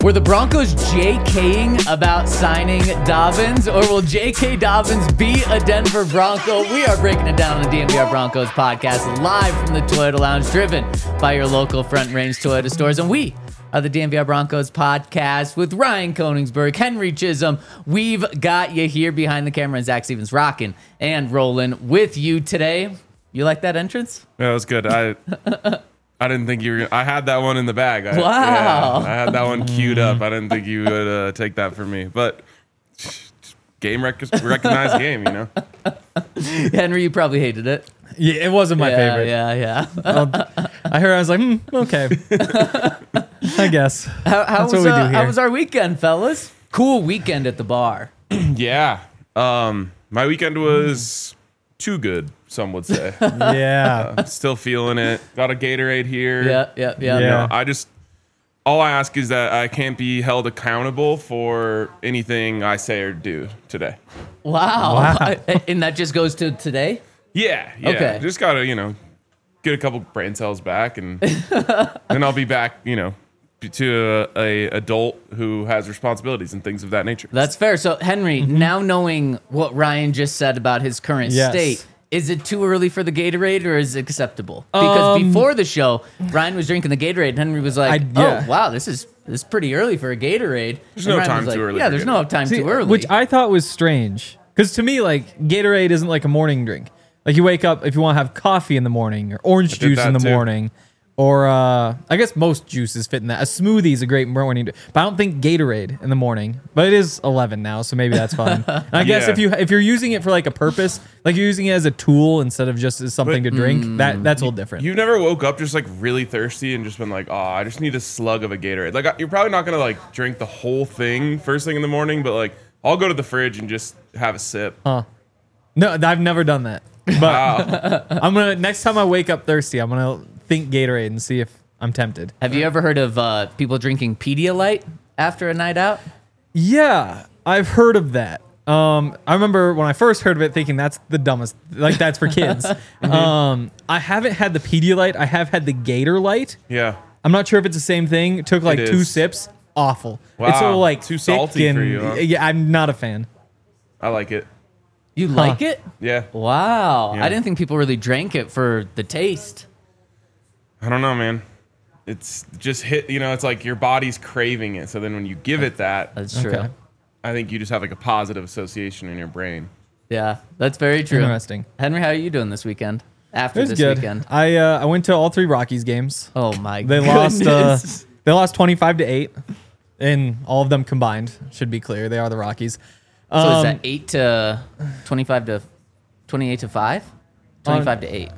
Were the Broncos JKing about signing Dobbins, or will J.K. Dobbins be a Denver Bronco? We are breaking it down on the DNVR Broncos podcast, live from the Toyota Lounge, driven by your local Front Range Toyota stores. And we are the DNVR Broncos podcast with Ryan Koenigsberg, Henry Chisholm. We've got you here behind the camera, and Zach Stevens rocking and rolling with you today. You like that entrance? Yeah, that was good. I didn't think you were. I had that one in the bag. Wow. I had that one queued up. I didn't think you would take that from me. But game recognized game, you know. Henry, you probably hated it. Yeah, it wasn't my favorite. Yeah. I heard. I was like, okay. I guess. How was our weekend, fellas? Cool weekend at the bar. Yeah. My weekend was too good, some would say. Yeah. Still feeling it. Got a Gatorade here. Yeah. You know, all I ask is that I can't be held accountable for anything I say or do today. Wow. And that just goes to today? Yeah. Okay. Just gotta, get a couple brain cells back, and then I'll be back, to a adult who has responsibilities and things of that nature. That's fair. So, Henry, now knowing what Ryan just said about his current state, is it too early for the Gatorade, or is it acceptable? Because before the show, Ryan was drinking the Gatorade, and Henry was like, "Oh, wow, this is pretty early for a Gatorade." There's no time too early. Yeah, there's no time too early. Which I thought was strange. Because to me, like, Gatorade isn't like a morning drink. Like, you wake up, if you want to have coffee in the morning, or orange juice in the morning, or I guess most juices fit in that. A smoothie is a great morning, but I don't think Gatorade in the morning. But it is 11 now, so maybe that's fine. And I guess if you're using it for like a purpose, like you're using it as a tool instead of just as something to drink, that's a little different. You never woke up just like really thirsty and just been like, oh, I just need a slug of a Gatorade. Like, you're probably not gonna like drink the whole thing first thing in the morning, but like I'll go to the fridge and just have a sip. No, I've never done that. But I'm gonna, next time I wake up thirsty, I'm gonna think Gatorade and see if I'm tempted. Have you ever heard of people drinking Pedialyte after a night out? Yeah, I've heard of that. I remember when I first heard of it thinking that's the dumbest, like that's for kids. I haven't had the Pedialyte. I have had the Gatorlyte. Yeah. I'm not sure if it's the same thing. It took like 2 sips. Awful. Wow. It's so like too thick salty and, for you, huh? Yeah, I'm not a fan. I like it. You like it? Yeah. Wow. Yeah. I didn't think people really drank it for the taste. I don't know, man. It's just hit, it's like your body's craving it. So then when you give it that, That's true. Okay. I think you just have like a positive association in your brain. Yeah, that's very true. Interesting. Henry, how are you doing this weekend? After It was this good. weekend? I went to all 3 Rockies games. Oh my They goodness. lost 25-8 in all of them combined. Should be clear. They are the Rockies. So is that 8 to 25 to 28 to 5? 25 to 8.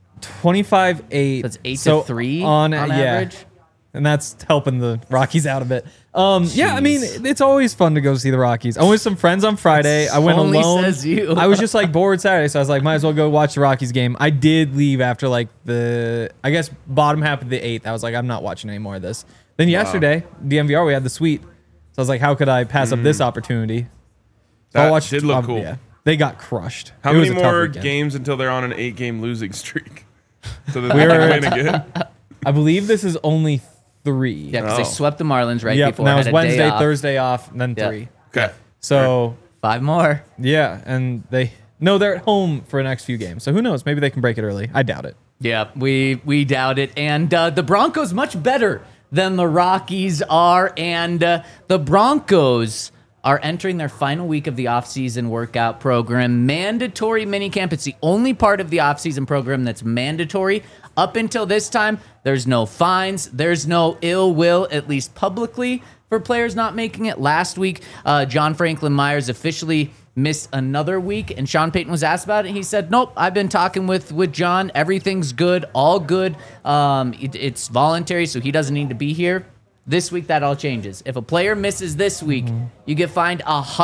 25-8. That's 8 to 3 on average. And that's helping the Rockies out a bit. Yeah, I mean, it's always fun to go see the Rockies. I went with some friends on Friday. I went Only alone. says you. I was just like bored Saturday, so I was like, might as well go watch the Rockies game. I did leave after like the, I guess, bottom half of the 8th. I was like, I'm not watching any more of this. Then yesterday, DNVR, we had the suite. So I was like, how could I pass up this opportunity? So That did look cool. Yeah, they got crushed. How It many was a tough more weekend. games until they're on an 8-game losing streak? So that they can win again? I believe this is only 3. Yeah, because they Oh. swept the Marlins right Yep, before. and that was had a day Wednesday, off. Thursday off, and then Yeah. 3. Okay. So 5 more. yeah, and they're at home for the next few games. So who knows? Maybe they can break it early. I doubt it. Yeah, we doubt it. And the Broncos much better than the Rockies are. And the Broncos are entering their final week of the offseason workout program. Mandatory minicamp. It's the only part of the offseason program that's mandatory. Up until this time, there's no fines. There's no ill will, at least publicly, for players not making it. Last week, John Franklin Myers officially missed another week, and Sean Payton was asked about it. He said, nope, I've been talking with John. Everything's good, all good. It's voluntary, so he doesn't need to be here. This week, that all changes. If a player misses this week, you get fined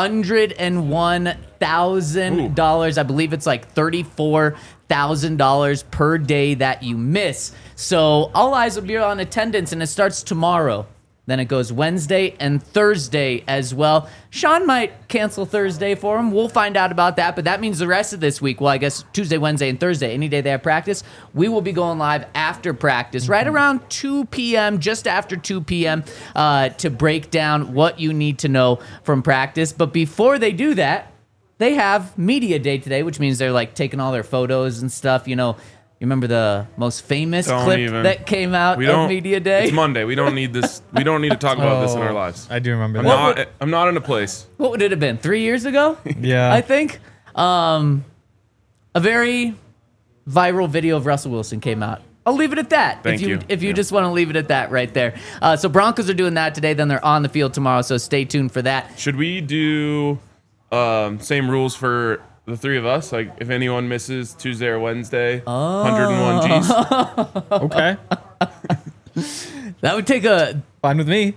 $101,000. I believe it's like $34,000 per day that you miss. So all eyes will be on attendance, and it starts tomorrow. Then it goes Wednesday and Thursday as well. Sean might cancel Thursday for him. We'll find out about that. But that means the rest of this week, well, I guess Tuesday, Wednesday, and Thursday, any day they have practice, we will be going live after practice, right around 2 p.m., just after 2 p.m., to break down what you need to know from practice. But before they do that, they have media day today, which means they're like taking all their photos and stuff, you know. You remember the most famous clip that came out of Media Day? It's Monday. We don't need this. We don't need to talk about this in our lives. I do remember that. I'm not in a place. What would it have been? 3 years ago? Yeah. I think. A very viral video of Russell Wilson came out. I'll leave it at that. Thank you. If you just want to leave it at that right there. So Broncos are doing that today. Then they're on the field tomorrow. So stay tuned for that. Should we do same rules for the three of us? Like, if anyone misses Tuesday or Wednesday, 101 G's. Okay. That would take a... Fine with me.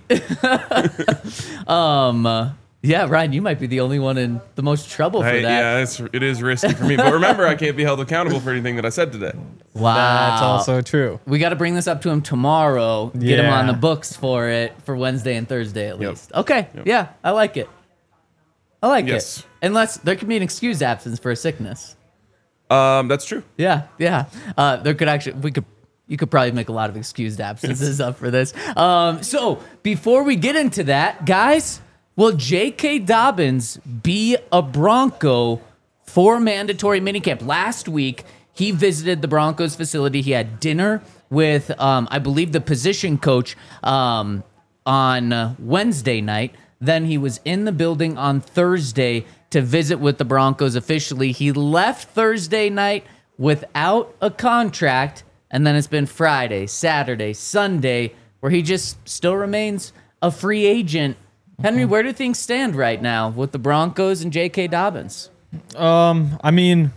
Yeah, Ryan, you might be the only one in the most trouble for that. Yeah, it is risky for me. But remember, I can't be held accountable for anything that I said today. Wow. That's also true. We got to bring this up to him tomorrow. Get him on the books for it for Wednesday and Thursday at least. Okay. Yep. Yeah, I like it. It. Unless there could be an excused absence for a sickness. That's true. Yeah. There could actually you could probably make a lot of excused absences up for this. So before we get into that, guys, will J.K. Dobbins be a Bronco for mandatory minicamp? Last week, he visited the Broncos facility. He had dinner with, I believe, the position coach on Wednesday night. Then he was in the building on Thursday to visit with the Broncos officially. He left Thursday night without a contract, and then it's been Friday, Saturday, Sunday, where he just still remains a free agent. Henry, where do things stand right now with the Broncos and J.K. Dobbins? I mean,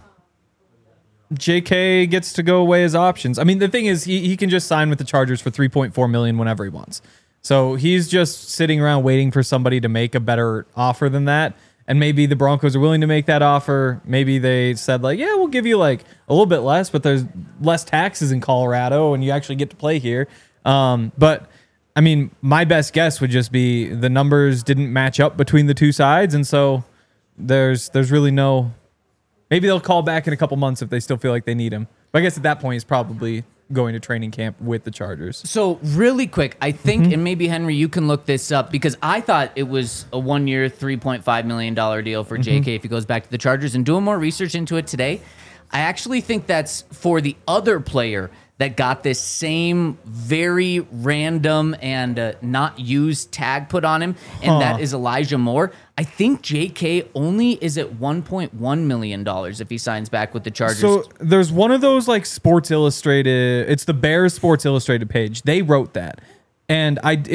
J.K. gets to go away as options. I mean, the thing is, he can just sign with the Chargers for $3.4 million whenever he wants. So he's just sitting around waiting for somebody to make a better offer than that. And maybe the Broncos are willing to make that offer. Maybe they said, like, yeah, we'll give you like a little bit less, but there's less taxes in Colorado and you actually get to play here. But I mean, my best guess would just be the numbers didn't match up between the two sides. And so there's really no, maybe they'll call back in a couple months if they still feel like they need him. But I guess at that point, he's probably going to training camp with the Chargers. So really quick, I think, and maybe Henry, you can look this up because I thought it was a 1 year, $3.5 million deal for JK if he goes back to the Chargers. And doing more research into it today, I actually think that's for the other player that got this same very random and not used tag put on him, and that is Elijah Moore. I think JK only is at $1.1 million if he signs back with the Chargers. So there's one of those like Sports Illustrated, it's the Bears Sports Illustrated page. They wrote that. And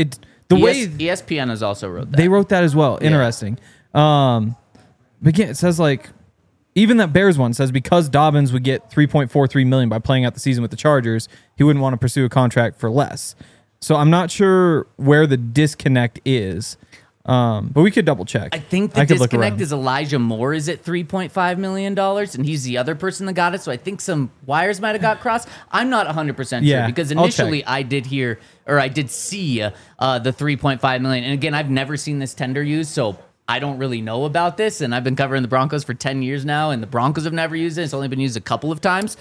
ESPN has also wrote that. They wrote that as well. Interesting. But again, it says like, even that Bears one says because Dobbins would get $3.43 million by playing out the season with the Chargers, he wouldn't want to pursue a contract for less. So I'm not sure where the disconnect is, but we could double check. I think the disconnect is Elijah Moore is at $3.5 million, and he's the other person that got it. So I think some wires might have got crossed. I'm not 100% sure because initially I did see the $3.5 million, and again, I've never seen this tender used, so I don't really know about this, and I've been covering the Broncos for 10 years now, and the Broncos have never used it. It's only been used a couple of times.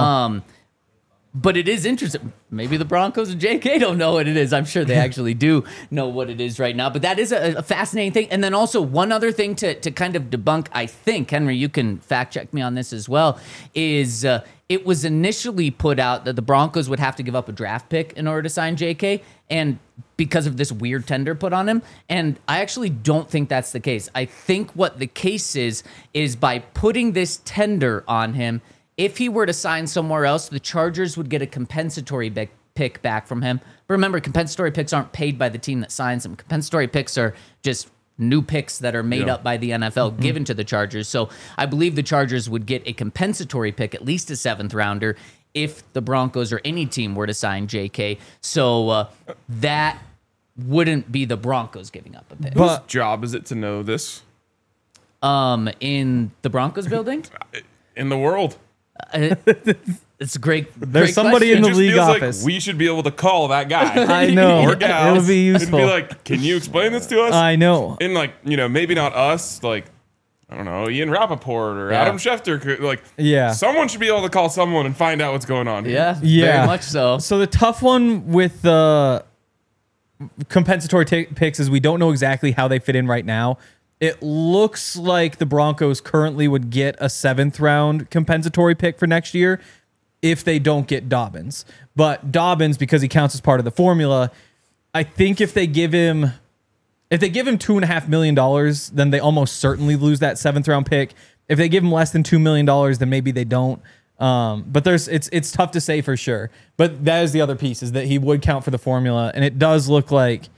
But it is interesting. Maybe the Broncos and JK don't know what it is. I'm sure they actually do know what it is right now. But that is a fascinating thing. And then also one other thing to kind of debunk, I think, Henry, you can fact check me on this as well, is it was initially put out that the Broncos would have to give up a draft pick in order to sign JK, and because of this weird tender put on him. And I actually don't think that's the case. I think what the case is by putting this tender on him, if he were to sign somewhere else, the Chargers would get a compensatory pick back from him. But remember, compensatory picks aren't paid by the team that signs them. Compensatory picks are just new picks that are made up by the NFL given to the Chargers. So I believe the Chargers would get a compensatory pick, at least a 7th rounder, if the Broncos or any team were to sign JK. So that wouldn't be the Broncos giving up a pick. Whose job is it to know this? In the Broncos building? In the world. It's great. There's great somebody in question. the It just league feels office. like we should be able to call that guy. I know. Or gal. It would be useful. And be like, can you explain this to us? I know. And like, maybe not us, like, I don't know, Ian Rappaport or Yeah. Adam Schefter. Like, Yeah. someone should be able to call someone and find out what's going on. Yeah, Yeah. very much so. So the tough one with the compensatory picks is we don't know exactly how they fit in right now. It looks like the Broncos currently would get a 7th round compensatory pick for next year if they don't get Dobbins. But Dobbins, because he counts as part of the formula, I think if they give him $2.5 million, then they almost certainly lose that 7th round pick. If they give him less than $2 million, then maybe they don't. But it's tough to say for sure. But that is the other piece, is that he would count for the formula, and it does look like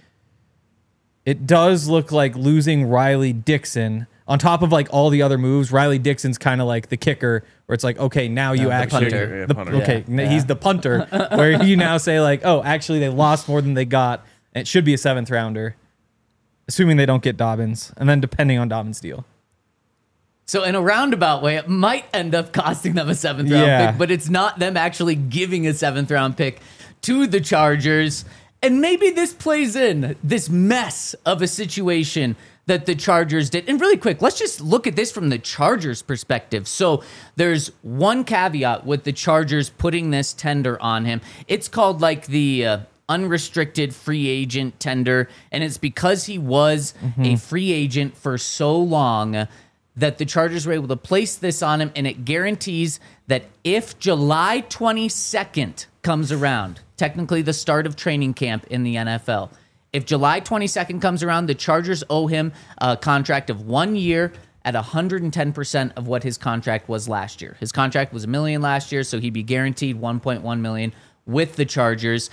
losing Riley Dixon on top of like all the other moves. Riley Dixon's kind of like the kicker, where it's like, okay, now you the actually punter. Yeah, punter. okay, Yeah. he's the punter, where you now say like, oh, actually they lost more than they got, and it should be a 7th rounder, assuming they don't get Dobbins, and then depending on Dobbins' deal. So in a roundabout way, it might end up costing them a 7th round Yeah. pick, but it's not them actually giving a 7th round pick to the Chargers. And maybe this plays in this mess of a situation that the Chargers did. And really quick, let's just look at this from the Chargers' perspective. So there's one caveat with the Chargers putting this tender on him. It's called like the unrestricted free agent tender. And it's because he was a free agent for so long that the Chargers were able to place this on him, and it guarantees that if July 22nd comes around, technically the start of training camp in the NFL, if July 22nd comes around, the Chargers owe him a contract of 1 year at 110% of what his contract was last year. His contract was $1 million last year, so he'd be guaranteed $1.1 million with the Chargers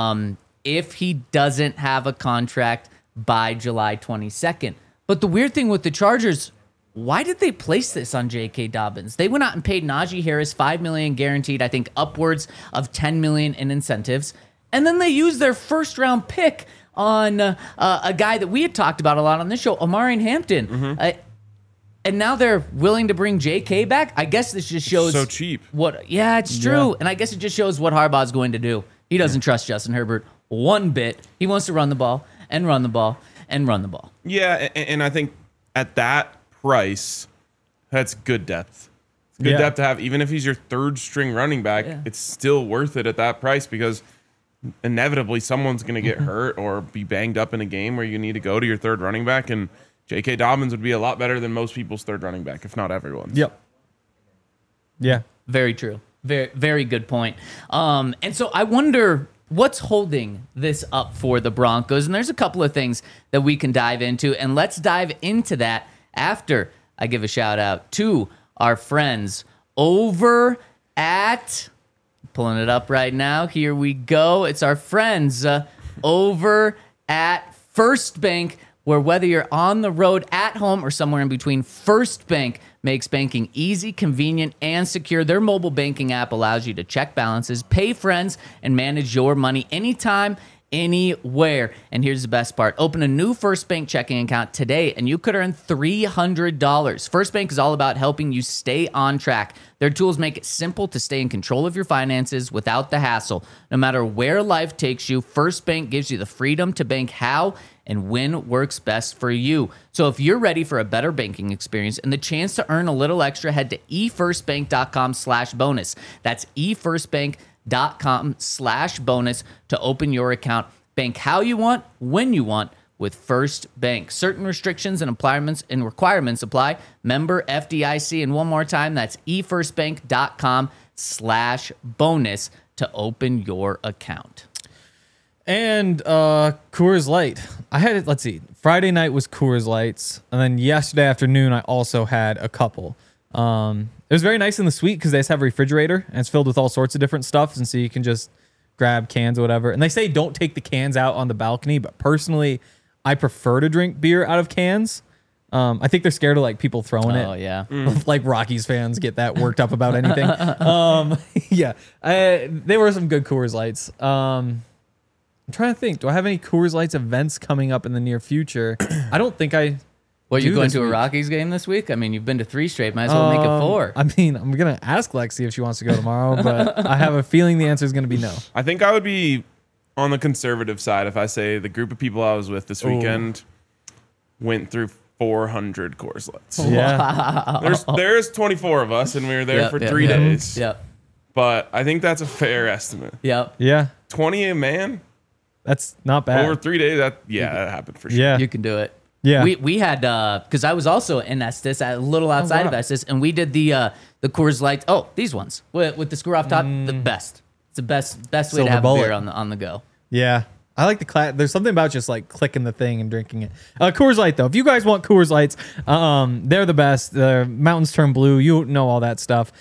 if he doesn't have a contract by July 22nd. But the weird thing with the Chargers, why did they place this on J.K. Dobbins? They went out and paid Najee Harris $5 million guaranteed, I think upwards of $10 million in incentives. And then they used their 1st round pick on a guy that we had talked about a lot on this show, Omarion Hampton. And now they're willing to bring J.K. back? I guess this just shows... So cheap. Yeah, it's true. And I guess it just shows what Harbaugh's going to do. He doesn't trust Justin Herbert one bit. He wants to run the ball and run the ball and run the ball. Yeah, and I think at that price, that's good depth. It's good depth to have. Even if he's your 3rd string running back, it's still worth it at that price, because inevitably someone's going to get hurt or be banged up in a game where you need to go to your 3rd running back, and J.K. Dobbins would be a lot better than most people's 3rd running back, if not everyone's. Yep. Yeah. Very true. Very, very good point. And so I wonder what's holding this up for the Broncos. And there's a couple of things that we can dive into, and let's dive into that after I give a shout out to our friends over at, pulling it up right now. Here we go. It's our friends over at First Bank, where whether you're on the road, at home, or somewhere in between, First Bank makes banking easy, convenient, and secure. Their mobile banking app allows you to check balances, pay friends, and manage your money anytime, anywhere. And here's the best part. Open a new First Bank checking account today, and you could earn $300. First Bank is all about helping you stay on track. Their tools make it simple to stay in control of your finances without the hassle. No matter where life takes you, First Bank gives you the freedom to bank how and when works best for you. So if you're ready for a better banking experience and the chance to earn a little extra, head to efirstbank.com/bonus. That's efirstbank.com/bonus to open your account. Bank how you want, when you want with First Bank. Certain restrictions and requirements apply. Member FDIC. And one more time, that's efirstbank.com/bonus to open your account. And Coors Light. I had it, let's see. Friday night was Coors Lights. And then yesterday afternoon, I also had a couple. It was very nice in the suite because they just have a refrigerator and it's filled with all sorts of different stuff. And so you can just grab cans or whatever. And they say don't take the cans out on the balcony. But personally, I prefer to drink beer out of cans. I think they're scared of like people throwing it. Oh, yeah. Like Rockies fans get that worked up about anything. Yeah. They were some good Coors Lights. I'm trying to think. Do I have any Coors Lights events coming up in the near future? I don't think I What, you do going this to a week. Rockies game this week? I mean, you've been to 3 straight. Might as well make it 4. I mean, I'm gonna ask Lexi if she wants to go tomorrow, but I have a feeling the answer is gonna be no. I think I would be on the conservative side if I say the group of people I was with this weekend went through 400 Coors Lights. Yeah, There's 24 of us, and we were there for 3 days. Yep. But I think that's a fair estimate. Yep. yeah, 20 a man that's not bad. over 3 days. That happened for sure. Yeah, You can do it. Yeah. We had because I was also in Estes, a little outside of Estes, and we did the Coors Lights. Oh, these ones with the screw off top, the best. It's the best way Silver to have bullet. a beer on the go. yeah. I like the there's something about just like clicking the thing and drinking it. Coors Light though, if you guys want Coors Lights, they're the best. The mountains turn blue. You know all that stuff.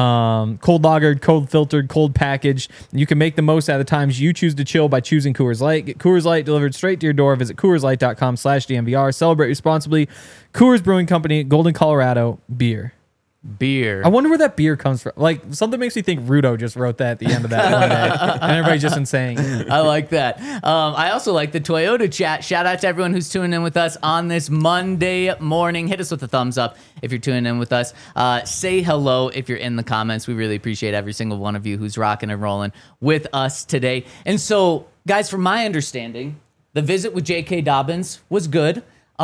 Cold lagered, cold filtered, cold packaged. You can make the most out of the times you choose to chill by choosing Coors Light. Get Coors Light delivered straight to your door. Visit CoorsLight.com/DNVR. Celebrate responsibly. Coors Brewing Company, Golden, Colorado. Beer. Beer. I wonder where that beer comes from. Like, something makes me think Rudo just wrote that at the end of that one day. And everybody's just insane. I like that. I also like the Toyota chat. Shout out to everyone who's tuning in with us on this Monday morning. Hit us with a thumbs up if you're tuning in with us. Say hello if you're in the comments. We really appreciate every single one of you who's rocking and rolling with us today. And so, guys, from my understanding, the visit with J.K. Dobbins was good.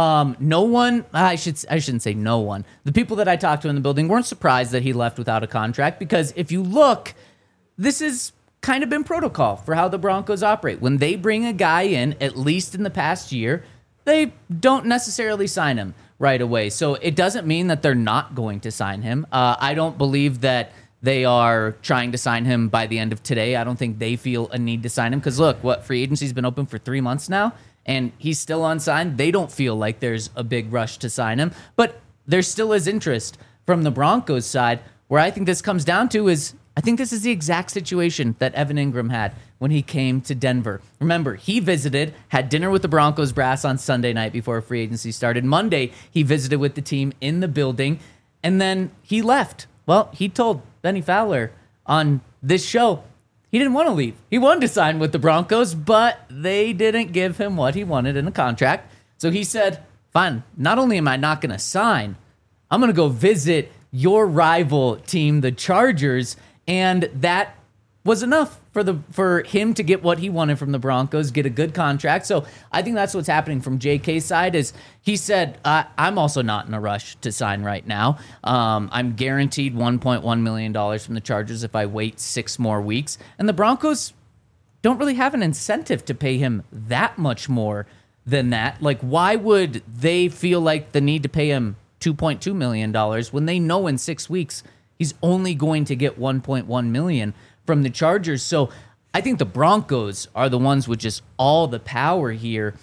No one, I shouldn't say no one. The people that I talked to in the building weren't surprised that he left without a contract, because if you look, this is kind of been protocol for how the Broncos operate. When they bring a guy in, at least in the past year, they don't necessarily sign him right away. So it doesn't mean that they're not going to sign him. I don't believe that they are trying to sign him by the end of today. I don't think they feel a need to sign him, because look, free agency's been open for 3 months now, and he's still unsigned. They don't feel like there's a big rush to sign him, but there still is interest from the Broncos side. Where I think this comes down to is, I think this is the exact situation that Evan Ingram had when he came to Denver. Remember, he visited, had dinner with the Broncos brass on Sunday night before free agency started. Monday, he visited with the team in the building, and then he left. Well, he told Benny Fowler on this show he didn't want to leave. He wanted to sign with the Broncos, but they didn't give him what he wanted in a contract. So he said, fine, not only am I not going to sign, I'm going to go visit your rival team, the Chargers. And that was enough for him to get what he wanted from the Broncos, get a good contract. So I think that's what's happening from JK's side. Is he said, I'm also not in a rush to sign right now. I'm guaranteed $1.1 million from the Chargers if I wait 6 more weeks. And the Broncos don't really have an incentive to pay him that much more than that. Like, why would they feel like the need to pay him $2.2 million when they know in 6 weeks he's only going to get $1.1 million from the Chargers? So I think the Broncos are the ones with just all the power here,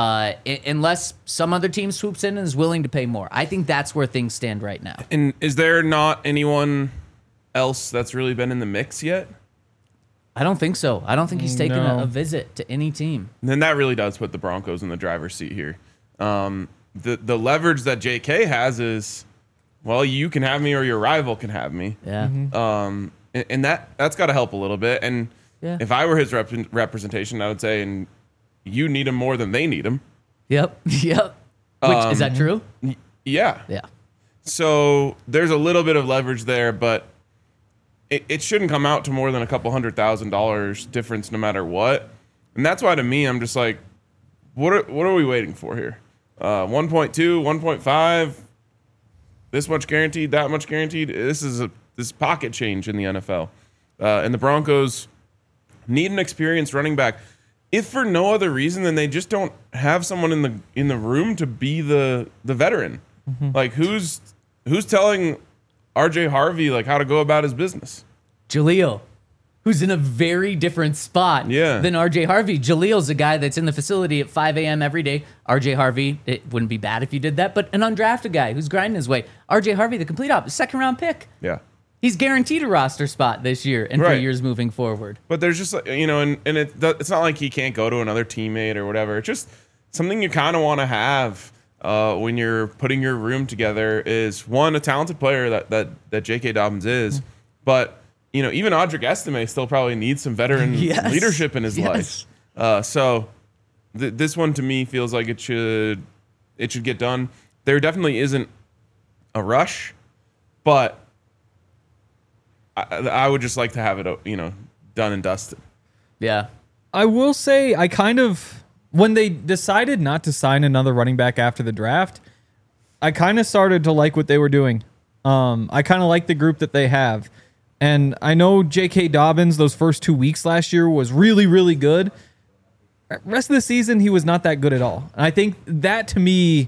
unless some other team swoops in and is willing to pay more. I think that's where things stand right now. And is there not anyone else that's really been in the mix yet? I don't think so. I don't think he's taken No. a visit to any team. And then that really does put the Broncos in the driver's seat here. The leverage that JK has is, well, you can have me or your rival can have me. Yeah. And that's got to help a little bit. And Yeah. if I were his representation, I would say, and you need him more than they need him. Yep. Yep. Which, is that true? Yeah. Yeah. So there's a little bit of leverage there, but it shouldn't come out to more than a couple $100,000 difference no matter what. And that's why, to me, I'm just like, what are we waiting for here? 1.2, 1.5, this much guaranteed, that much guaranteed. This is pocket change in the NFL. And the Broncos need an experienced running back. If for no other reason than they just don't have someone in the room to be the veteran. Like, who's telling RJ Harvey like how to go about his business? Jaleel, who's in a very different spot than RJ Harvey. Jaleel's a guy that's in the facility at 5 a.m. every day. RJ Harvey, it wouldn't be bad if you did that, but an undrafted guy who's grinding his way. RJ Harvey, the complete opposite, second-round pick. Yeah. He's guaranteed a roster spot this year and for Right. years moving forward. But there's just, and it's not like he can't go to another teammate or whatever. It's just something you kind of want to have when you're putting your room together is, one, a talented player that J.K. Dobbins is, but even Audric Estime still probably needs some veteran leadership in his life. So this one to me feels like it should get done. there definitely isn't a rush, but I would just like to have it, done and dusted. Yeah. I will say when they decided not to sign another running back after the draft, I kind of started to like what they were doing. I kind of like the group that they have. And I know J.K. Dobbins, those first 2 weeks last year was really, really good. Rest of the season, he was not that good at all. And I think that, to me,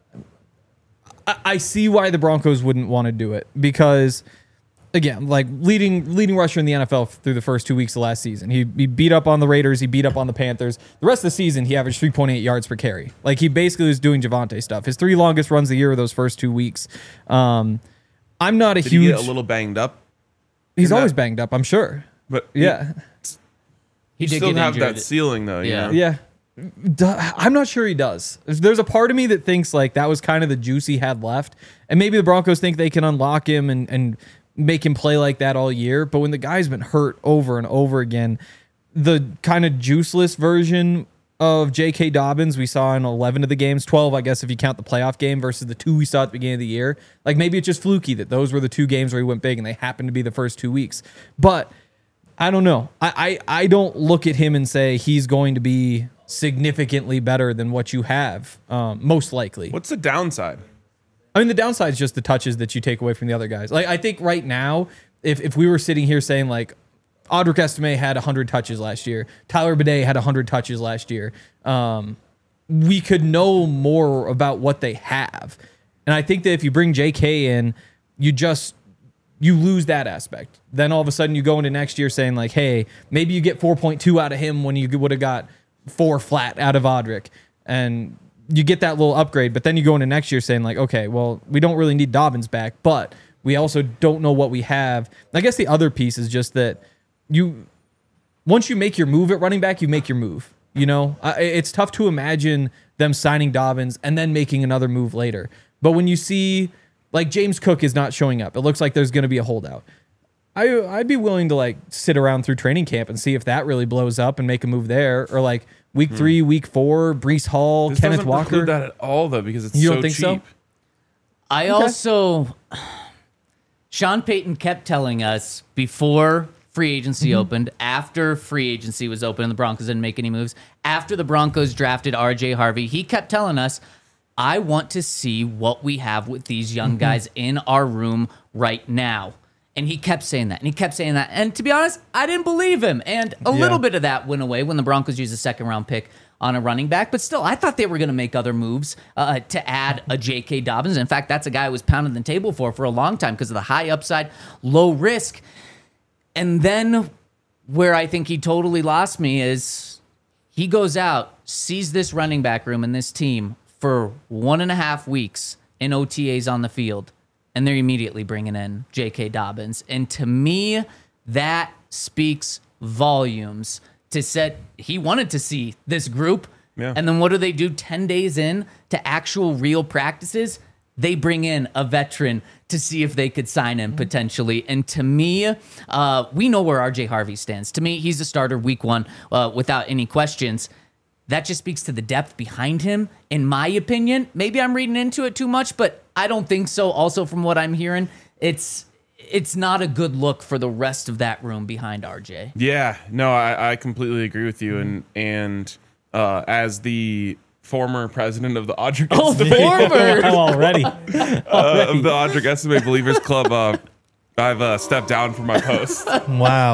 I see why the Broncos wouldn't want to do it. Because, again, like leading rusher in the NFL through the first 2 weeks of last season. He beat up on the Raiders. He beat up on the Panthers. The rest of the season, he averaged 3.8 yards per carry. Like, he basically was doing Javonte stuff. His 3 longest runs of the year were those first 2 weeks. I'm not a Did huge... he get a little banged up? He's always banged up, I'm sure. But yeah. He did still get have injured. that ceiling, though. Yeah. Yeah. I'm not sure he does. There's a part of me that thinks like that was kind of the juice he had left. And maybe the Broncos think they can unlock him and make him play like that all year. But when the guy's been hurt over and over again, the kind of juiceless version of J.K. Dobbins we saw in 11 of the games, 12, I guess, if you count the playoff game versus the 2 we saw at the beginning of the year. Like, maybe it's just fluky that those were the 2 games where he went big and they happened to be the first 2 weeks. But I don't know. I don't look at him and say he's going to be significantly better than what you have, most likely. What's the downside? I mean, the downside is just the touches that you take away from the other guys. Like, I think right now, if we were sitting here saying, like, Audric Estime had 100 touches last year, Tyler Bidet had 100 touches last year, we could know more about what they have. And I think that if you bring JK in, you lose that aspect. Then all of a sudden you go into next year saying like, hey, maybe you get 4.2 out of him when you would have got 4 flat out of Audric. And you get that little upgrade. But then you go into next year saying like, okay, well, we don't really need Dobbins back, but we also don't know what we have. I guess the other piece is just that once you make your move at running back, you make your move. You know, it's tough to imagine them signing Dobbins and then making another move later. But when you see like James Cook is not showing up, it looks like there's going to be a holdout. I'd be willing to like sit around through training camp and see if that really blows up and make a move there, or like week 3, week 4, Breece Hall, This Kenneth doesn't Walker. preclude that at all, though, because it's You so don't think cheap. so? I also, Sean Payton kept telling us before free agency opened, after free agency was open and the Broncos didn't make any moves, after the Broncos drafted RJ Harvey, he kept telling us, I want to see what we have with these young guys in our room right now. And he kept saying that, and he kept saying that. And to be honest, I didn't believe him. And a little bit of that went away when the Broncos used a second-round pick on a running back. But still, I thought they were going to make other moves to add a J.K. Dobbins. In fact, that's a guy I was pounding the table for a long time because of the high upside, low risk. And then where I think he totally lost me is he goes out, sees this running back room and this team for 1.5 weeks in OTAs on the field, and they're immediately bringing in J.K. Dobbins. And to me, that speaks volumes to set. He wanted to see this group. Yeah. And then what do? 10 days in to actual real practices, they bring in a veteran to see if they could sign him potentially. And to me, we know where RJ Harvey stands. To me, he's a starter week 1 without any questions. That just speaks to the depth behind him, in my opinion. Maybe I'm reading into it too much, but I don't think so. Also, from what I'm hearing, it's not a good look for the rest of that room behind RJ. Yeah, no, I completely agree with you. And as the former president of the Audric Former! already. of the Audric Estime Believers Club, I've stepped down from my post Wow.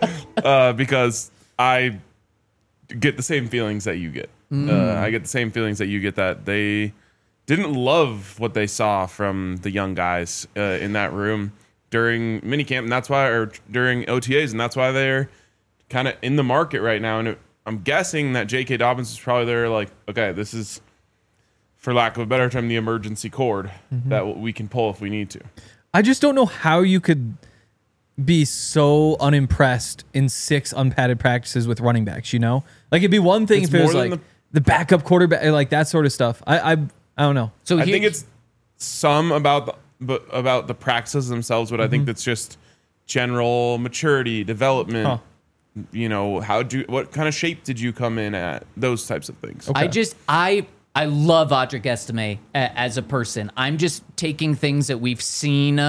because I get the same feelings that you get. I get the same feelings that you get, that they didn't love what they saw from the young guys in that room during minicamp, and that's why, or during OTAs, and that's why they're kind of in the market right now. And I'm guessing that J.K. Dobbins is probably there, like, okay, this is, for lack of a better term, the emergency cord that we can pull if we need to. I just don't know how you could be so unimpressed in 6 unpadded practices with running backs, you know? Like, it'd be one thing It's if it was more like than the backup quarterback, like that sort of stuff. I don't know. So I think it's some about the practices themselves, but I think that's just general maturity, development. Huh. You know, what kind of shape did you come in at? Those types of things. Okay. I I love Audric Estime as a person. I'm just taking things that we've seen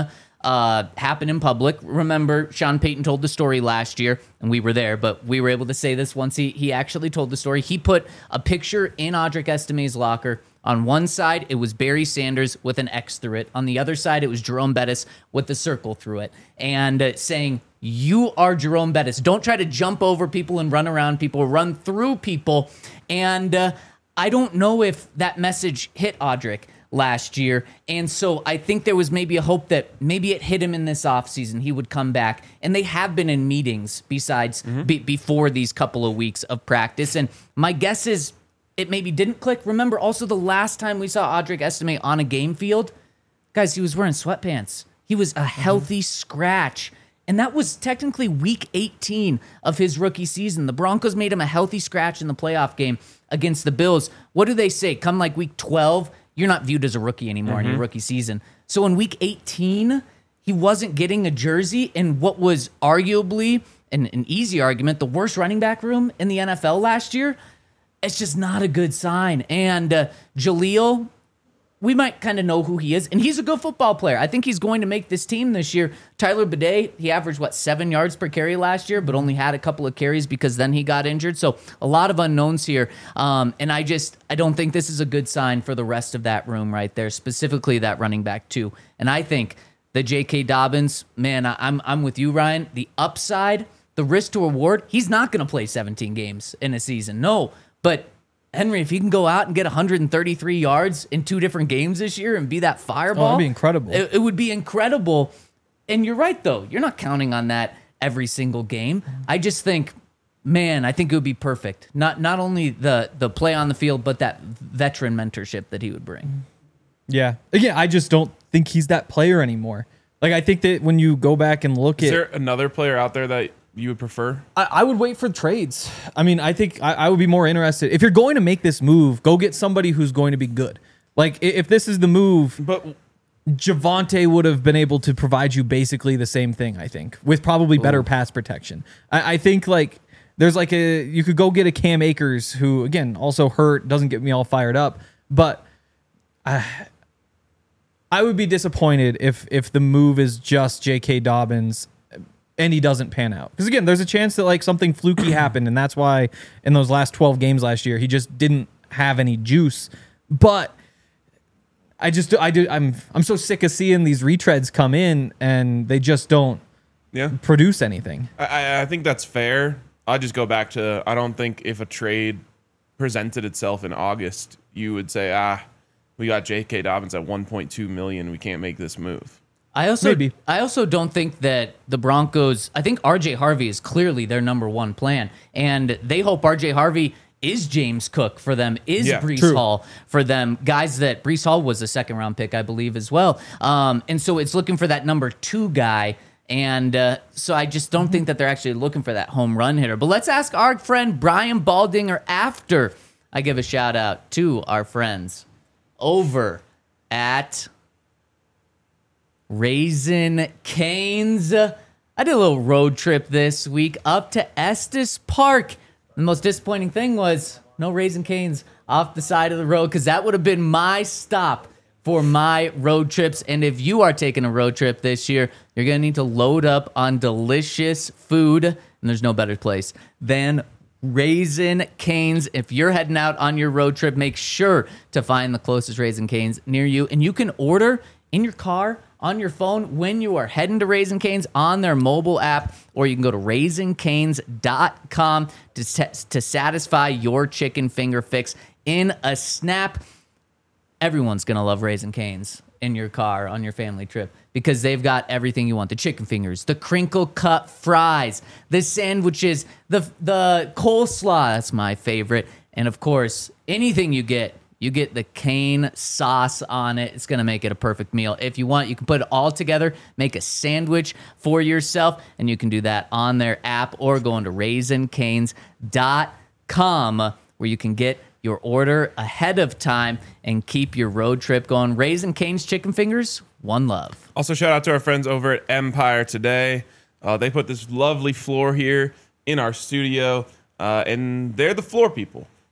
happen in public. Remember, Sean Payton told the story last year, and we were there, but we were able to say this once he actually told the story. He put a picture in Audric Estime's locker. On one side, it was Barry Sanders with an X through it. On the other side, it was Jerome Bettis with a circle through it. And saying, you are Jerome Bettis. Don't try to jump over people and run around people, run through people. And I don't know if that message hit Audric last year. And so I think there was maybe a hope that maybe it hit him in this offseason. He would come back. And they have been in meetings besides before these couple of weeks of practice. And my guess is it maybe didn't click. Remember also the last time we saw Audric Estime on a game field, guys, he was wearing sweatpants. He was a healthy scratch. And that was technically week 18 of his rookie season. The Broncos made him a healthy scratch in the playoff game against the Bills. What do they say? Come like week 12, you're not viewed as a rookie anymore in your rookie season. So in week 18, he wasn't getting a jersey in what was arguably an easy argument, the worst running back room in the NFL last year. It's just not a good sign. And Jaleel, we might kind of know who he is, and he's a good football player. I think he's going to make this team this year. Tyler Bidet, he averaged, 7 yards per carry last year, but only had a couple of carries because then he got injured. So a lot of unknowns here. And I don't think this is a good sign for the rest of that room right there, specifically that running back too. And I think that J.K. Dobbins, man, I'm with you, Ryan. The upside, the risk to reward, he's not going to play 17 games in a season. No, but Henry, if he can go out and get 133 yards in 2 different games this year and be that fireball, that'd be incredible. It would be incredible. And you're right, though. You're not counting on that every single game. I just think, man, I think it would be perfect. Not only the play on the field, but that veteran mentorship that he would bring. Yeah. Again, I just don't think he's that player anymore. Like, I think that when you go back and look Is there another player out there that you would prefer? I would wait for trades. I mean, I think I would be more interested. If you're going to make this move, go get somebody who's going to be good. Like, if this is the move, but Javonte would have been able to provide you basically the same thing, I think, with probably better pass protection. I think, like, there's like you could go get a Cam Akers who, again, also hurt, doesn't get me all fired up. But I would be disappointed if the move is just J.K. Dobbins and he doesn't pan out. Because, again, there's a chance that, like, something fluky happened, and that's why in those last 12 games last year, he just didn't have any juice. But I'm so sick of seeing these retreads come in, and they just don't produce anything. I think that's fair. I'll just go back to, I don't think if a trade presented itself in August, you would say, we got J.K. Dobbins at $1.2 million. We can't make this move. I also don't think that the Broncos, I think RJ Harvey is clearly their number one plan. And they hope RJ Harvey is James Cook for them, is Breece Hall for them. Guys that Breece Hall was a second round pick, I believe, as well. And so it's looking for that number 2 guy. And so I just don't think that they're actually looking for that home run hitter. But let's ask our friend Brian Baldinger after I give a shout out to our friends over at Raising Cane's. I did a little road trip this week up to Estes Park. The most disappointing thing was no Raising Cane's off the side of the road, because that would have been my stop for my road trips. And if you are taking a road trip this year, you're going to need to load up on delicious food. And there's no better place than Raising Cane's. If you're heading out on your road trip, make sure to find the closest Raising Cane's near you. And you can order in your car, on your phone, when you are heading to Raising Cane's on their mobile app, or you can go to raisingcanes.com to satisfy your chicken finger fix in a snap. Everyone's going to love Raising Cane's in your car on your family trip, because they've got everything you want. The chicken fingers, the crinkle cut fries, the sandwiches, the coleslaw, that's my favorite. And of course, anything you get the cane sauce on it. It's going to make it a perfect meal. If you want, you can put it all together, make a sandwich for yourself, and you can do that on their app or go into raisingcanes.com, where you can get your order ahead of time and keep your road trip going. Raising Cane's chicken fingers, one love. Also, shout out to our friends over at Empire Today. They put this lovely floor here in our studio, and they're the floor people.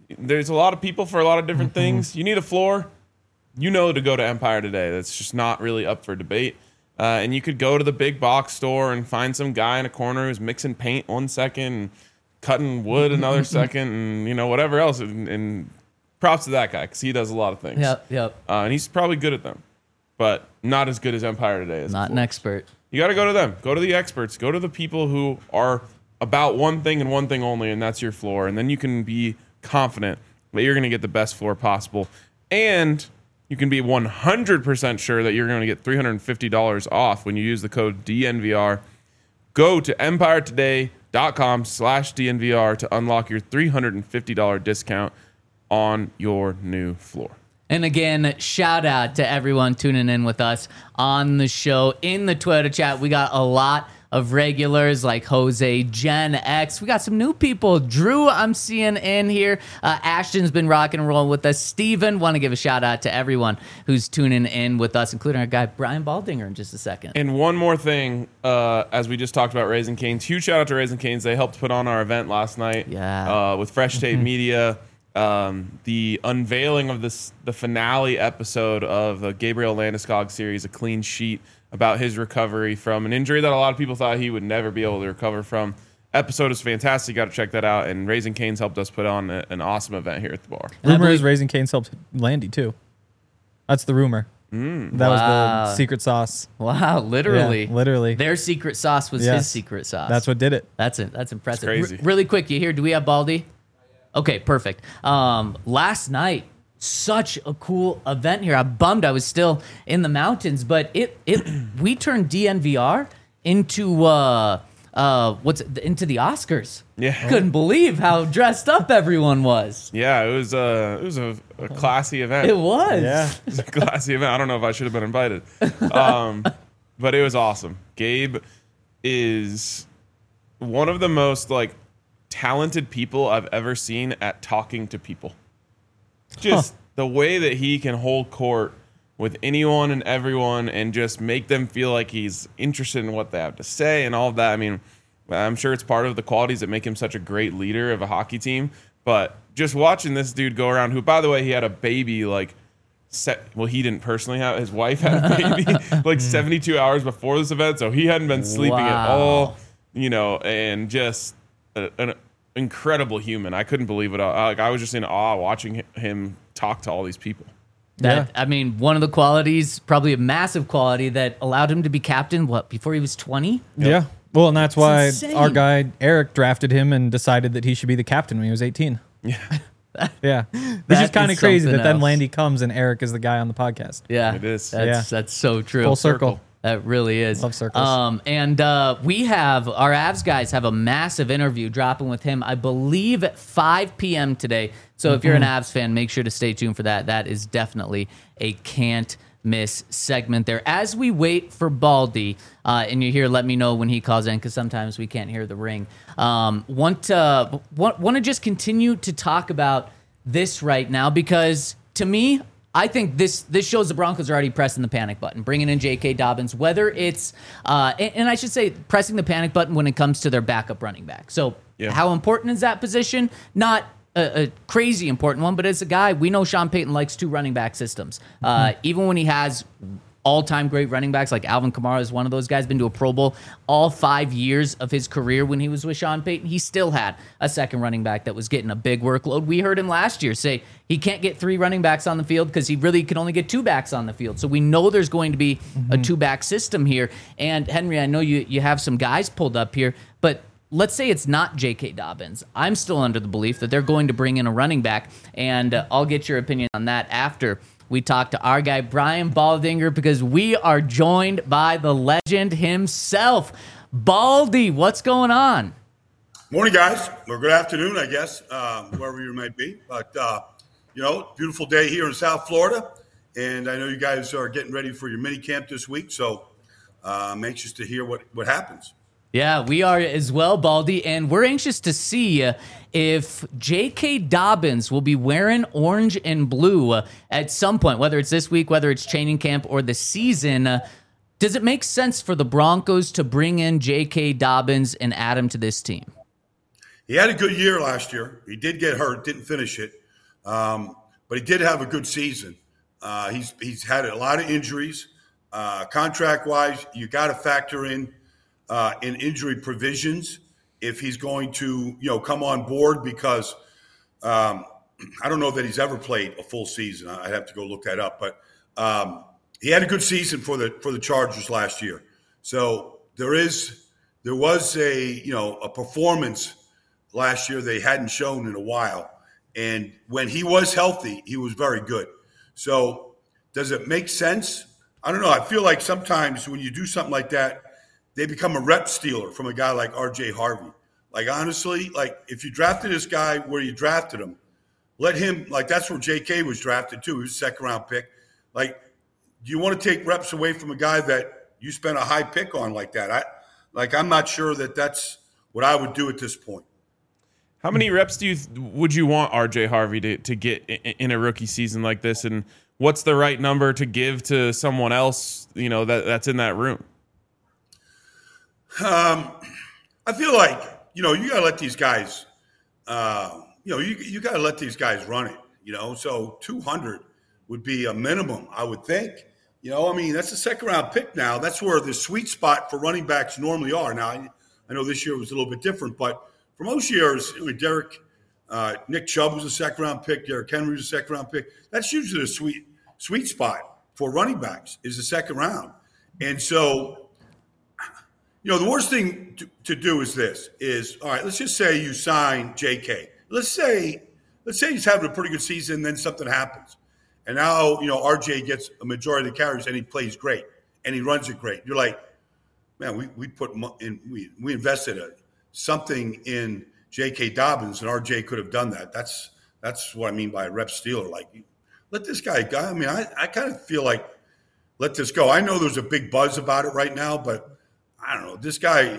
there's a lot of people for a lot of different things. You need a floor, to go to Empire Today. That's just not really up for debate. And you could go to the big box store and find some guy in a corner who's mixing paint 1 second, and cutting wood another second, and whatever else. And props to that guy because he does a lot of things. Yep. And he's probably good at them, but not as good as Empire Today is. Not an expert. You got to go to them. Go to the experts. Go to the people who are about one thing and one thing only, and that's your floor. And then you can be confident that you're going to get the best floor possible. And you can be 100% sure that you're going to get $350 off when you use the code DNVR. Go to empiretoday.com/DNVR to unlock your $350 discount on your new floor. And again, shout out to everyone tuning in with us on the show. In the Twitter chat, we got a lot of regulars like Jose, Gen X. We got some new people. Drew, I'm seeing in here. Ashton's been rocking and rolling with us. Steven, want to give a shout out to everyone who's tuning in with us, including our guy Brian Baldinger in just a second. And one more thing, as we just talked about Raising Cane's, huge shout out to Raising Cane's. They helped put on our event last night with Fresh Tape Media. The unveiling of the finale episode of the Gabriel Landeskog series, A Clean Sheet, about his recovery from an injury that a lot of people thought he would never be able to recover from. Episode is fantastic. You got to check that out. And Raising Cane's helped us put on an awesome event here at the bar. Rumor is Raising Cane's helped Landy too. That's the rumor. That was the secret sauce. Wow, literally. Yeah, literally. Their secret sauce was his secret sauce. That's what did it. That's it. That's impressive. Crazy. Really quick, you hear, do we have Baldy? Okay, perfect. Last night, such a cool event here. I'm bummed I was still in the mountains, but we turned DNVR into into the Oscars. Yeah. Couldn't believe how dressed up everyone was. Yeah, it was a classy event. It was. Yeah. It was a classy event. I don't know if I should have been invited. But it was awesome. Gabe is one of the most talented people I've ever seen at talking to people. Just the way that he can hold court with anyone and everyone and just make them feel like he's interested in what they have to say and all of that. I mean, I'm sure it's part of the qualities that make him such a great leader of a hockey team. But just watching this dude go around, who, by the way, he had a baby he didn't personally have. His wife had a baby 72 hours before this event, so he hadn't been sleeping at all, and just an incredible human. I couldn't believe it. I was just in awe watching him talk to all these people. I mean, one of the qualities, probably a massive quality, that allowed him to be captain, before he was 20? Yeah. Well, and that's why insane. our guy Eric drafted him and decided that he should be the captain when he was 18. Yeah. Yeah. Which is kind of crazy that then else. Landy comes and Eric is the guy on the podcast. Yeah. It is. That's so true. Full circle. That really is. Love circles. And we have, our Avs guys have a massive interview dropping with him, I believe, at 5 p.m. today. So if you're an Avs fan, make sure to stay tuned for that. That is definitely a can't miss segment there. As we wait for Baldy, and you hear, let me know when he calls in, because sometimes we can't hear the ring. Want to just continue to talk about this right now, because to me, I think this shows the Broncos are already pressing the panic button, bringing in J.K. Dobbins, whether it's, and I should say pressing the panic button when it comes to their backup running back. So how important is that position? Not a crazy important one, but as a guy, we know Sean Payton likes 2 running back systems. Even when he has all-time great running backs, like Alvin Kamara is one of those guys, been to a Pro Bowl all 5 years of his career when he was with Sean Payton. He still had a second running back that was getting a big workload. We heard him last year say he can't get 3 running backs on the field because he really can only get 2 backs on the field. So we know there's going to be a 2-back system here. And Henry, I know you have some guys pulled up here, but let's say it's not J.K. Dobbins. I'm still under the belief that they're going to bring in a running back, and I'll get your opinion on that after we talk to our guy, Brian Baldinger, because we are joined by the legend himself. Baldy, what's going on? Morning, guys. Or good afternoon, I guess, wherever you might be. But, beautiful day here in South Florida. And I know you guys are getting ready for your mini camp this week. So I'm anxious to hear what happens. Yeah, we are as well, Baldy, and we're anxious to see if J.K. Dobbins will be wearing orange and blue at some point, whether it's this week, whether it's training camp or the season. Does it make sense for the Broncos to bring in J.K. Dobbins and add him to this team? he had a good year last year. He did get hurt, didn't finish it, but he did have a good season. He's had a lot of injuries. Contract-wise, you got to factor in injury provisions if he's going to, come on board because I don't know that he's ever played a full season. I'd have to go look that up, but he had a good season for the Chargers last year. So there was a performance last year they hadn't shown in a while, and when he was healthy, he was very good. So does it make sense? I don't know. I feel like sometimes when you do something like that, they become a rep stealer from a guy like RJ Harvey. Like, honestly, like if you drafted this guy where you drafted him, let him, like that's where JK was drafted too. He was a second-round pick. Like, do you want to take reps away from a guy that you spent a high pick on like that? I'm not sure that that's what I would do at this point. How many reps would you want RJ Harvey to get in a rookie season like this? And what's the right number to give to someone else, that's in that room? I feel like, you got to let these guys, you got to let these guys run it, So 200 would be a minimum, I would think. That's a second-round pick now. That's where the sweet spot for running backs normally are. Now, I know this year was a little bit different, but for most years, Nick Chubb was a second-round pick. Derrick Henry was a second-round pick. That's usually the sweet spot for running backs is the second round. And so, the worst thing to do is, all right, let's just say you sign JK. Let's say he's having a pretty good season, then something happens. And now, RJ gets a majority of the carries and he plays great and he runs it great. You're like, man, we put in, we invested something in J.K. Dobbins and RJ could have done that. That's what I mean by a rep stealer. Like, let this guy go. I kind of feel like let this go. I know there's a big buzz about it right now, but I don't know. This guy,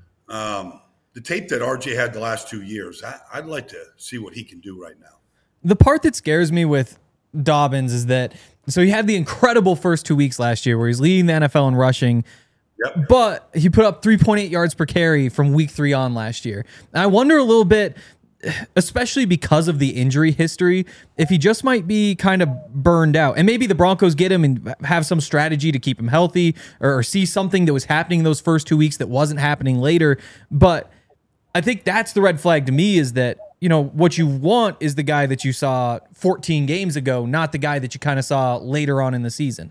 the tape that RJ had the last 2 years, I'd like to see what he can do right now. The part that scares me with Dobbins is that, so he had the incredible first 2 weeks last year where he's leading the NFL in rushing, but he put up 3.8 yards per carry from week 3 on last year. And I wonder a little bit, especially because of the injury history, if he just might be kind of burned out. And maybe the Broncos get him and have some strategy to keep him healthy or see something that was happening those first 2 weeks that wasn't happening later. But I think that's the red flag to me, is that, what you want is the guy that you saw 14 games ago, not the guy that you kind of saw later on in the season.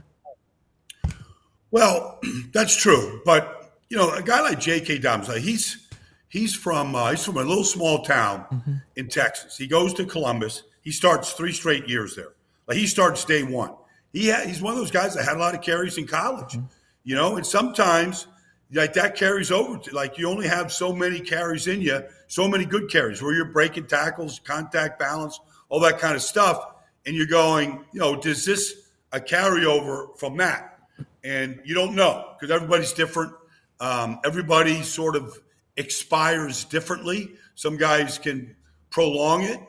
Well, that's true. But, a guy like J.K. Dobbins, he's from a little small town in Texas. He goes to Columbus. He starts 3 straight years there. Like, he starts day one. He's one of those guys that had a lot of carries in college, and sometimes like that carries over to, like, you only have so many carries in you, so many good carries where you're breaking tackles, contact balance, all that kind of stuff. And you're going, does this a carryover from that? And you don't know because everybody's different. Everybody sort of expires differently. Some guys can prolong it.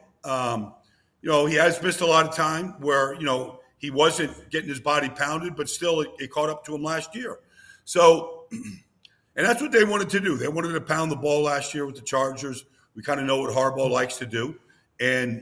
He has missed a lot of time where, he wasn't getting his body pounded, but still it caught up to him last year. So, and that's what they wanted to do. They wanted to pound the ball last year with the Chargers. We kind of know what Harbaugh likes to do. And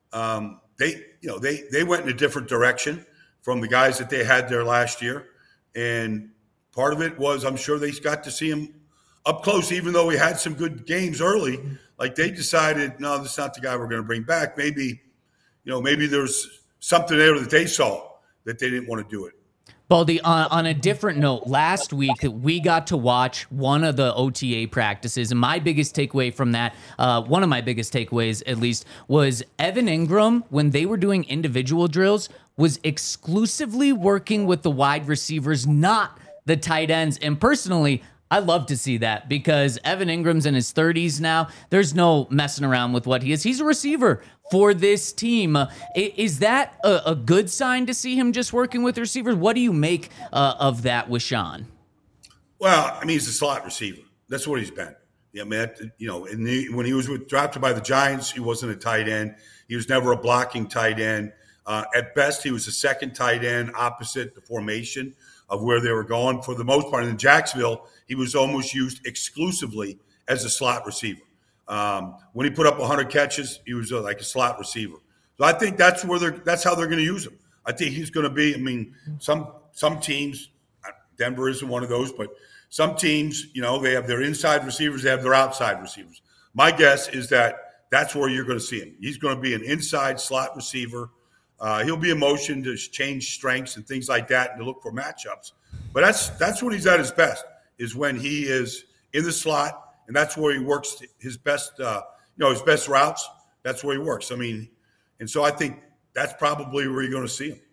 they went in a different direction from the guys that they had there last year. And part of it was, I'm sure they got to see him up close, even though he had some good games early. Like, they decided, no, this is not the guy we're going to bring back. Maybe there's something there that they saw that they didn't want to do it. Baldy, on a different note, last week we got to watch one of the OTA practices, and my biggest takeaway from that, one of my biggest takeaways at least, was Evan Ingram, when they were doing individual drills, was exclusively working with the wide receivers, not the tight ends. And personally, I love to see that because Evan Ingram's in his 30s now. There's no messing around with what he is. He's a receiver for this team. Is that a good sign to see him just working with receivers? What do you make of that with Sean? Well, he's a slot receiver. That's what he's been. Yeah, man. When he was drafted by the Giants, he wasn't a tight end. He was never a blocking tight end. At best, he was a second tight end opposite the formation of where they were going. For the most part, in Jacksonville, he was almost used exclusively as a slot receiver. When he put up 100 catches, he was like a slot receiver. So I think that's how they're going to use him. I think he's going to be. I mean, some teams, Denver isn't one of those, but some teams, they have their inside receivers, they have their outside receivers. My guess is that's where you're going to see him. He's going to be an inside slot receiver. He'll be in motion to change strengths and things like that and to look for matchups. But that's when he's at his best, is when he is in the slot, and that's where he works his best, his best routes. That's where he works. I mean, and so I think that's probably where you're going to see him.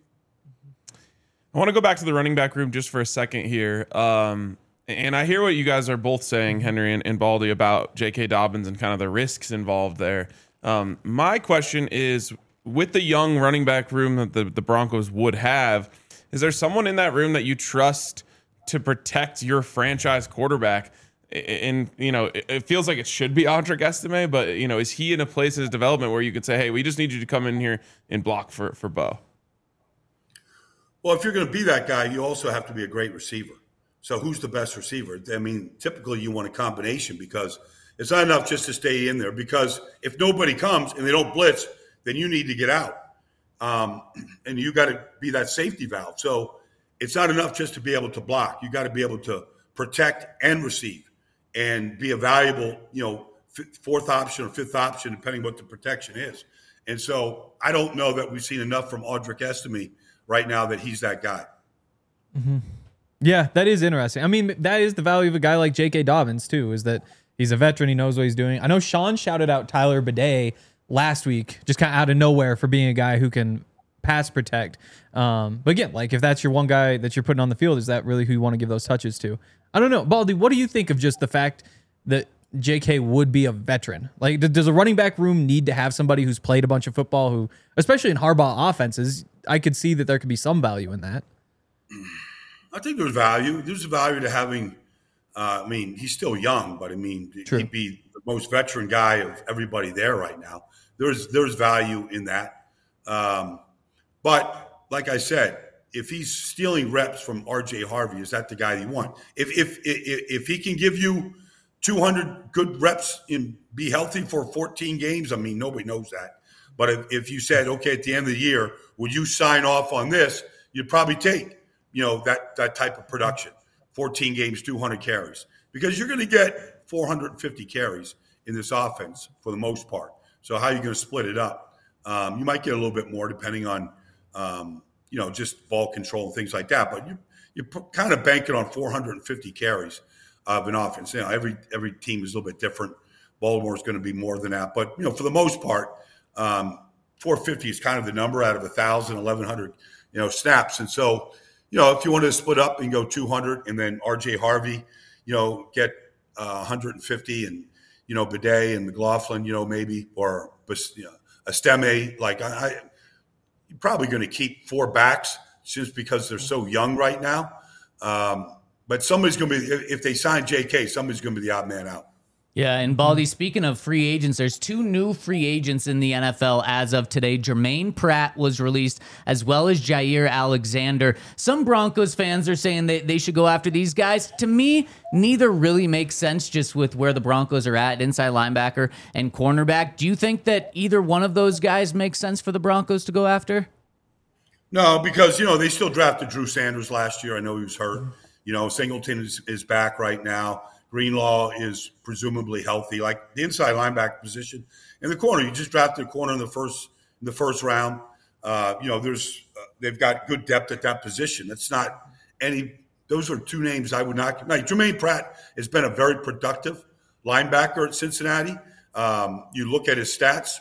I want to go back to the running back room just for a second here. And I hear what you guys are both saying, Henry and Baldy, about J.K. Dobbins and kind of the risks involved there. My question is, with the young running back room that the Broncos would have, is there someone in that room that you trust to protect your franchise quarterback? And, it feels like it should be Audric Estime, but, is he in a place in his development where you could say, hey, we just need you to come in here and block for Bo? Well, if you're going to be that guy, you also have to be a great receiver. So who's the best receiver? I mean, typically you want a combination, because it's not enough just to stay in there, because if nobody comes and they don't blitz, then you need to get out. And you got to be that safety valve. So it's not enough just to be able to block. You got to be able to protect and receive and be a valuable, fourth option or fifth option, depending what the protection is. And so I don't know that we've seen enough from Audric Estime right now that he's that guy. Mm-hmm. Yeah, that is interesting. I mean, that is the value of a guy like J.K. Dobbins, too, is that he's a veteran. He knows what he's doing. I know Sean shouted out Tyler Bidet last week, just kind of out of nowhere, for being a guy who can pass protect. But again, like, if that's your one guy that you're putting on the field, is that really who you want to give those touches to? I don't know. Baldy, what do you think of just the fact that J.K. would be a veteran? Like, does a running back room need to have somebody who's played a bunch of football, who, especially in Harbaugh offenses, I could see that there could be some value in that. I think there's value. There's value to having, he's still young, but True. He'd be the most veteran guy of everybody there right now. There's value in that. But like I said, if he's stealing reps from R.J. Harvey, is that the guy you want? If he can give you 200 good reps and be healthy for 14 games, nobody knows that. But if you said, okay, at the end of the year, would you sign off on this? You'd probably take that type of production, 14 games, 200 carries, because you're going to get 450 carries in this offense for the most part. So how are you going to split it up? You might get a little bit more depending on, just ball control and things like that. But you're kind of banking on 450 carries of an offense. Every team is a little bit different. Baltimore's going to be more than that. But, for the most part, 450 is kind of the number out of 1,000, 1,100, snaps. And so, if you wanted to split up and go 200 and then R.J. Harvey, get 150 and, Bidet and McLaughlin, maybe, or Estime, you're probably going to keep four backs just because they're so young right now. But somebody's going to be, if they sign J.K., somebody's going to be the odd man out. Yeah, and Baldy, speaking of free agents, there's two new free agents in the NFL as of today. Jermaine Pratt was released, as well as Jair Alexander. Some Broncos fans are saying that they should go after these guys. To me, neither really makes sense just with where the Broncos are at, inside linebacker and cornerback. Do you think that either one of those guys makes sense for the Broncos to go after? No, because, they still drafted Drew Sanders last year. I know he was hurt. Singleton is back right now. Greenlaw is presumably healthy, like the inside linebacker position. In the corner, you just drafted a corner in the first round. They've got good depth at that position. It's not any. Those are two names I would not. Like Jermaine Pratt has been a very productive linebacker at Cincinnati. You look at his stats.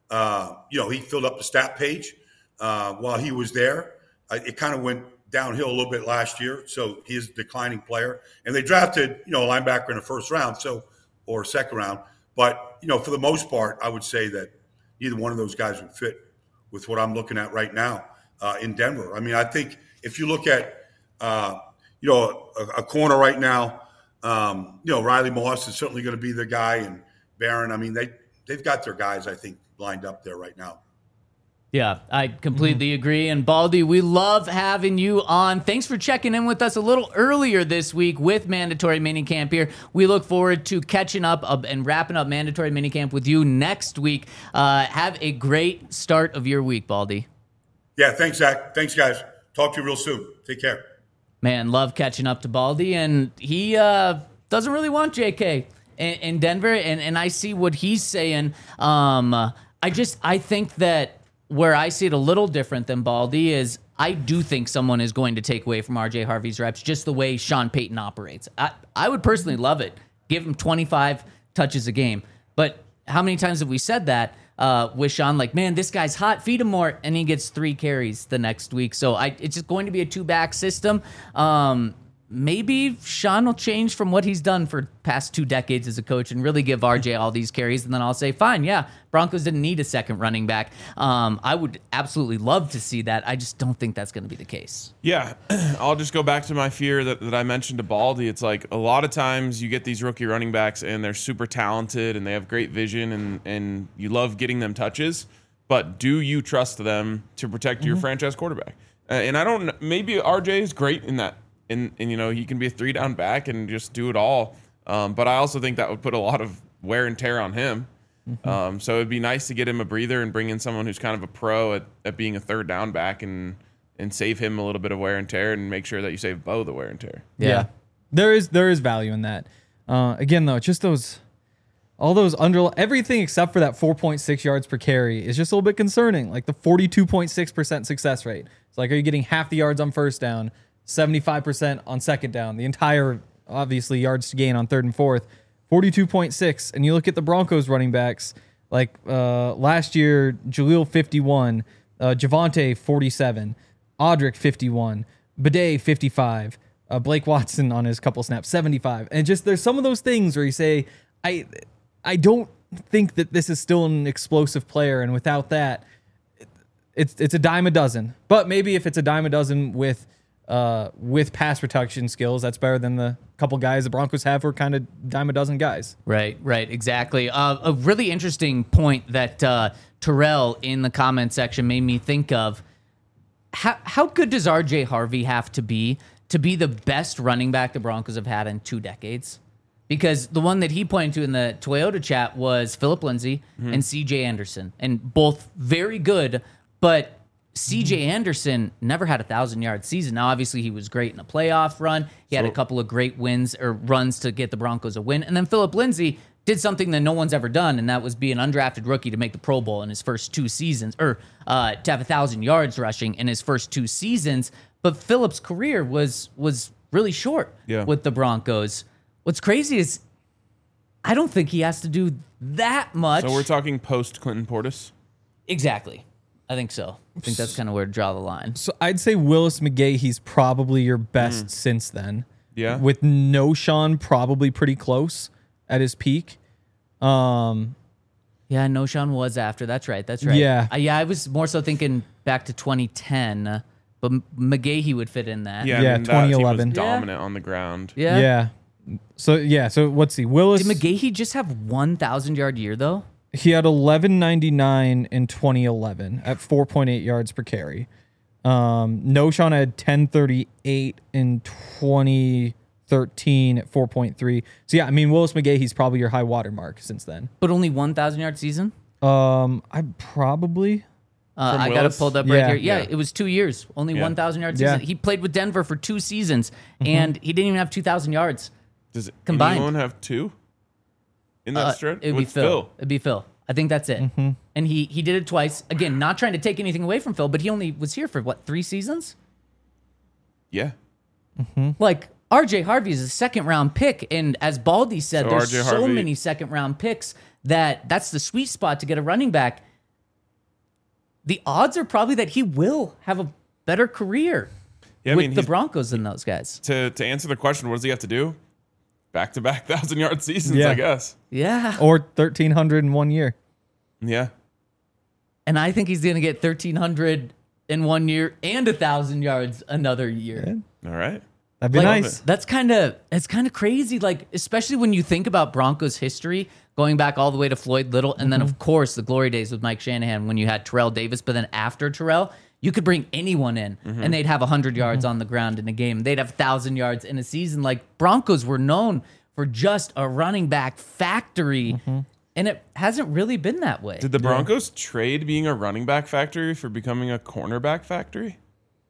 He filled up the stat page while he was there. It kind of went downhill a little bit last year, so he's a declining player. And they drafted, a linebacker in the first round, or second round. But, for the most part, I would say that neither one of those guys would fit with what I'm looking at right now in Denver. I think if you look at, a corner right now, Riley Moss is certainly going to be the guy, and Barron. They've got their guys, I think, lined up there right now. Yeah, I completely agree. And Baldy, we love having you on. Thanks for checking in with us a little earlier this week with Mandatory Minicamp here. We look forward to catching up and wrapping up Mandatory Minicamp with you next week. Have a great start of your week, Baldy. Yeah, thanks, Zach. Thanks, guys. Talk to you real soon. Take care. Man, love catching up to Baldy. And he doesn't really want JK in Denver. And I see what he's saying. I think that where I see it a little different than Baldy is I do think someone is going to take away from RJ Harvey's reps just the way Sean Payton operates. I would personally love it. Give him 25 touches a game. But how many times have we said that with Sean? Like, man, this guy's hot. Feed him more. And he gets 3 carries the next week. So it's just going to be a 2-back system. Maybe Sean will change from what he's done for past 2 decades as a coach and really give RJ all these carries. And then I'll say, fine, yeah, Broncos didn't need a second running back. I would absolutely love to see that. I just don't think that's going to be the case. Yeah, I'll just go back to my fear that I mentioned to Baldy. It's like a lot of times you get these rookie running backs and they're super talented and they have great vision and you love getting them touches. But do you trust them to protect your franchise quarterback? And I don't. Maybe RJ is great in that. And he can be a 3-down back and just do it all. But I also think that would put a lot of wear and tear on him. So it'd be nice to get him a breather and bring in someone who's kind of a pro at being a 3rd-down back and save him a little bit of wear and tear and make sure that you save Bo the wear and tear. Yeah. There is value in that. Again, though, just everything except for that 4.6 yards per carry is just a little bit concerning. Like the 42.6% success rate. It's like, are you getting half the yards on first down? 75% on second down, the entire, obviously, yards to gain on 3rd and 4th, 42.6. And you look at the Broncos running backs, like last year, Jaleel 51, Javonte 47, Audric 51, Bidet 55, Blake Watson on his couple snaps 75. And just there's some of those things where you say, I don't think that this is still an explosive player, and without that, it's a dime a dozen. But maybe if it's a dime a dozen with pass protection skills, that's better than the couple guys the Broncos have who are kind of dime a dozen guys. Right, exactly. A really interesting point that Terrell in the comment section made me think of. How good does RJ Harvey have to be the best running back the Broncos have had in 2 decades? Because the one that he pointed to in the Toyota chat was Phillip Lindsay and CJ Anderson, and both very good, but CJ Anderson never had a 1,000-yard season. Now, obviously, he was great in a playoff run. He had a couple of great wins or runs to get the Broncos a win. And then Phillip Lindsay did something that no one's ever done, and that was be an undrafted rookie to make the Pro Bowl in his first 2 seasons, or to have 1,000 yards rushing in his first 2 seasons. But Phillip's career was really short with the Broncos. What's crazy is I don't think he has to do that much. So we're talking post-Clinton Portis? Exactly. I think so. I think that's kind of where to draw the line. So I'd say Willis McGahee, he's probably your best since then. Yeah. With no Sean, probably pretty close at his peak. Yeah, no Sean was after. That's right. Yeah. I was more so thinking back to 2010, but McGahee would fit in that. Yeah, Yeah, I mean, that team 2011. was dominant on the ground. Yeah. So let's see. Willis. Did McGahee just have 1,000-yard year, though? He had 1199 in 2011 at 4.8 yards per carry. No Sean had 1038 in 2013 at 4.3. So yeah, I mean Willis McGahee's probably your high water mark since then. But only 1,000-yard season? I probably I got it pulled up right Yeah. here. Yeah, Yeah. it was 2 years. Only 1,000-yard season. Yeah. He played with Denver for 2 seasons, and he didn't even have 2,000 yards. Does Combined. anyone have 2 in that stretch? It'd be With Phil. It'd be Phil. I think that's it. And he did it twice. Again, not trying to take anything away from Phil, but he only was here for, 3 seasons? Yeah. Like, RJ Harvey is a second-round pick, and as Baldy said, So there's RJ so Harvey- many second-round picks that's the sweet spot to get a running back. The odds are probably that he will have a better career Yeah, with the he's- Broncos than those guys. To answer the question, what does he have to do? Back-to-back 1,000-yard seasons, Yeah. I guess. Yeah. or 1,300 in 1 year. Yeah. And I think he's going to get 1,300 in 1 year and 1,000 yards another year. All right. That'd be nice. It's kind of crazy. Like, especially when you think about Broncos history, going back all the way to Floyd Little, and then of course the glory days with Mike Shanahan when you had Terrell Davis. But then after Terrell, you could bring anyone in, and they'd have 100 yards on the ground in a game. They'd have 1,000 yards in a season. Like, Broncos were known for just a running back factory, and it hasn't really been that way. Did the Broncos trade being a running back factory for becoming a cornerback factory?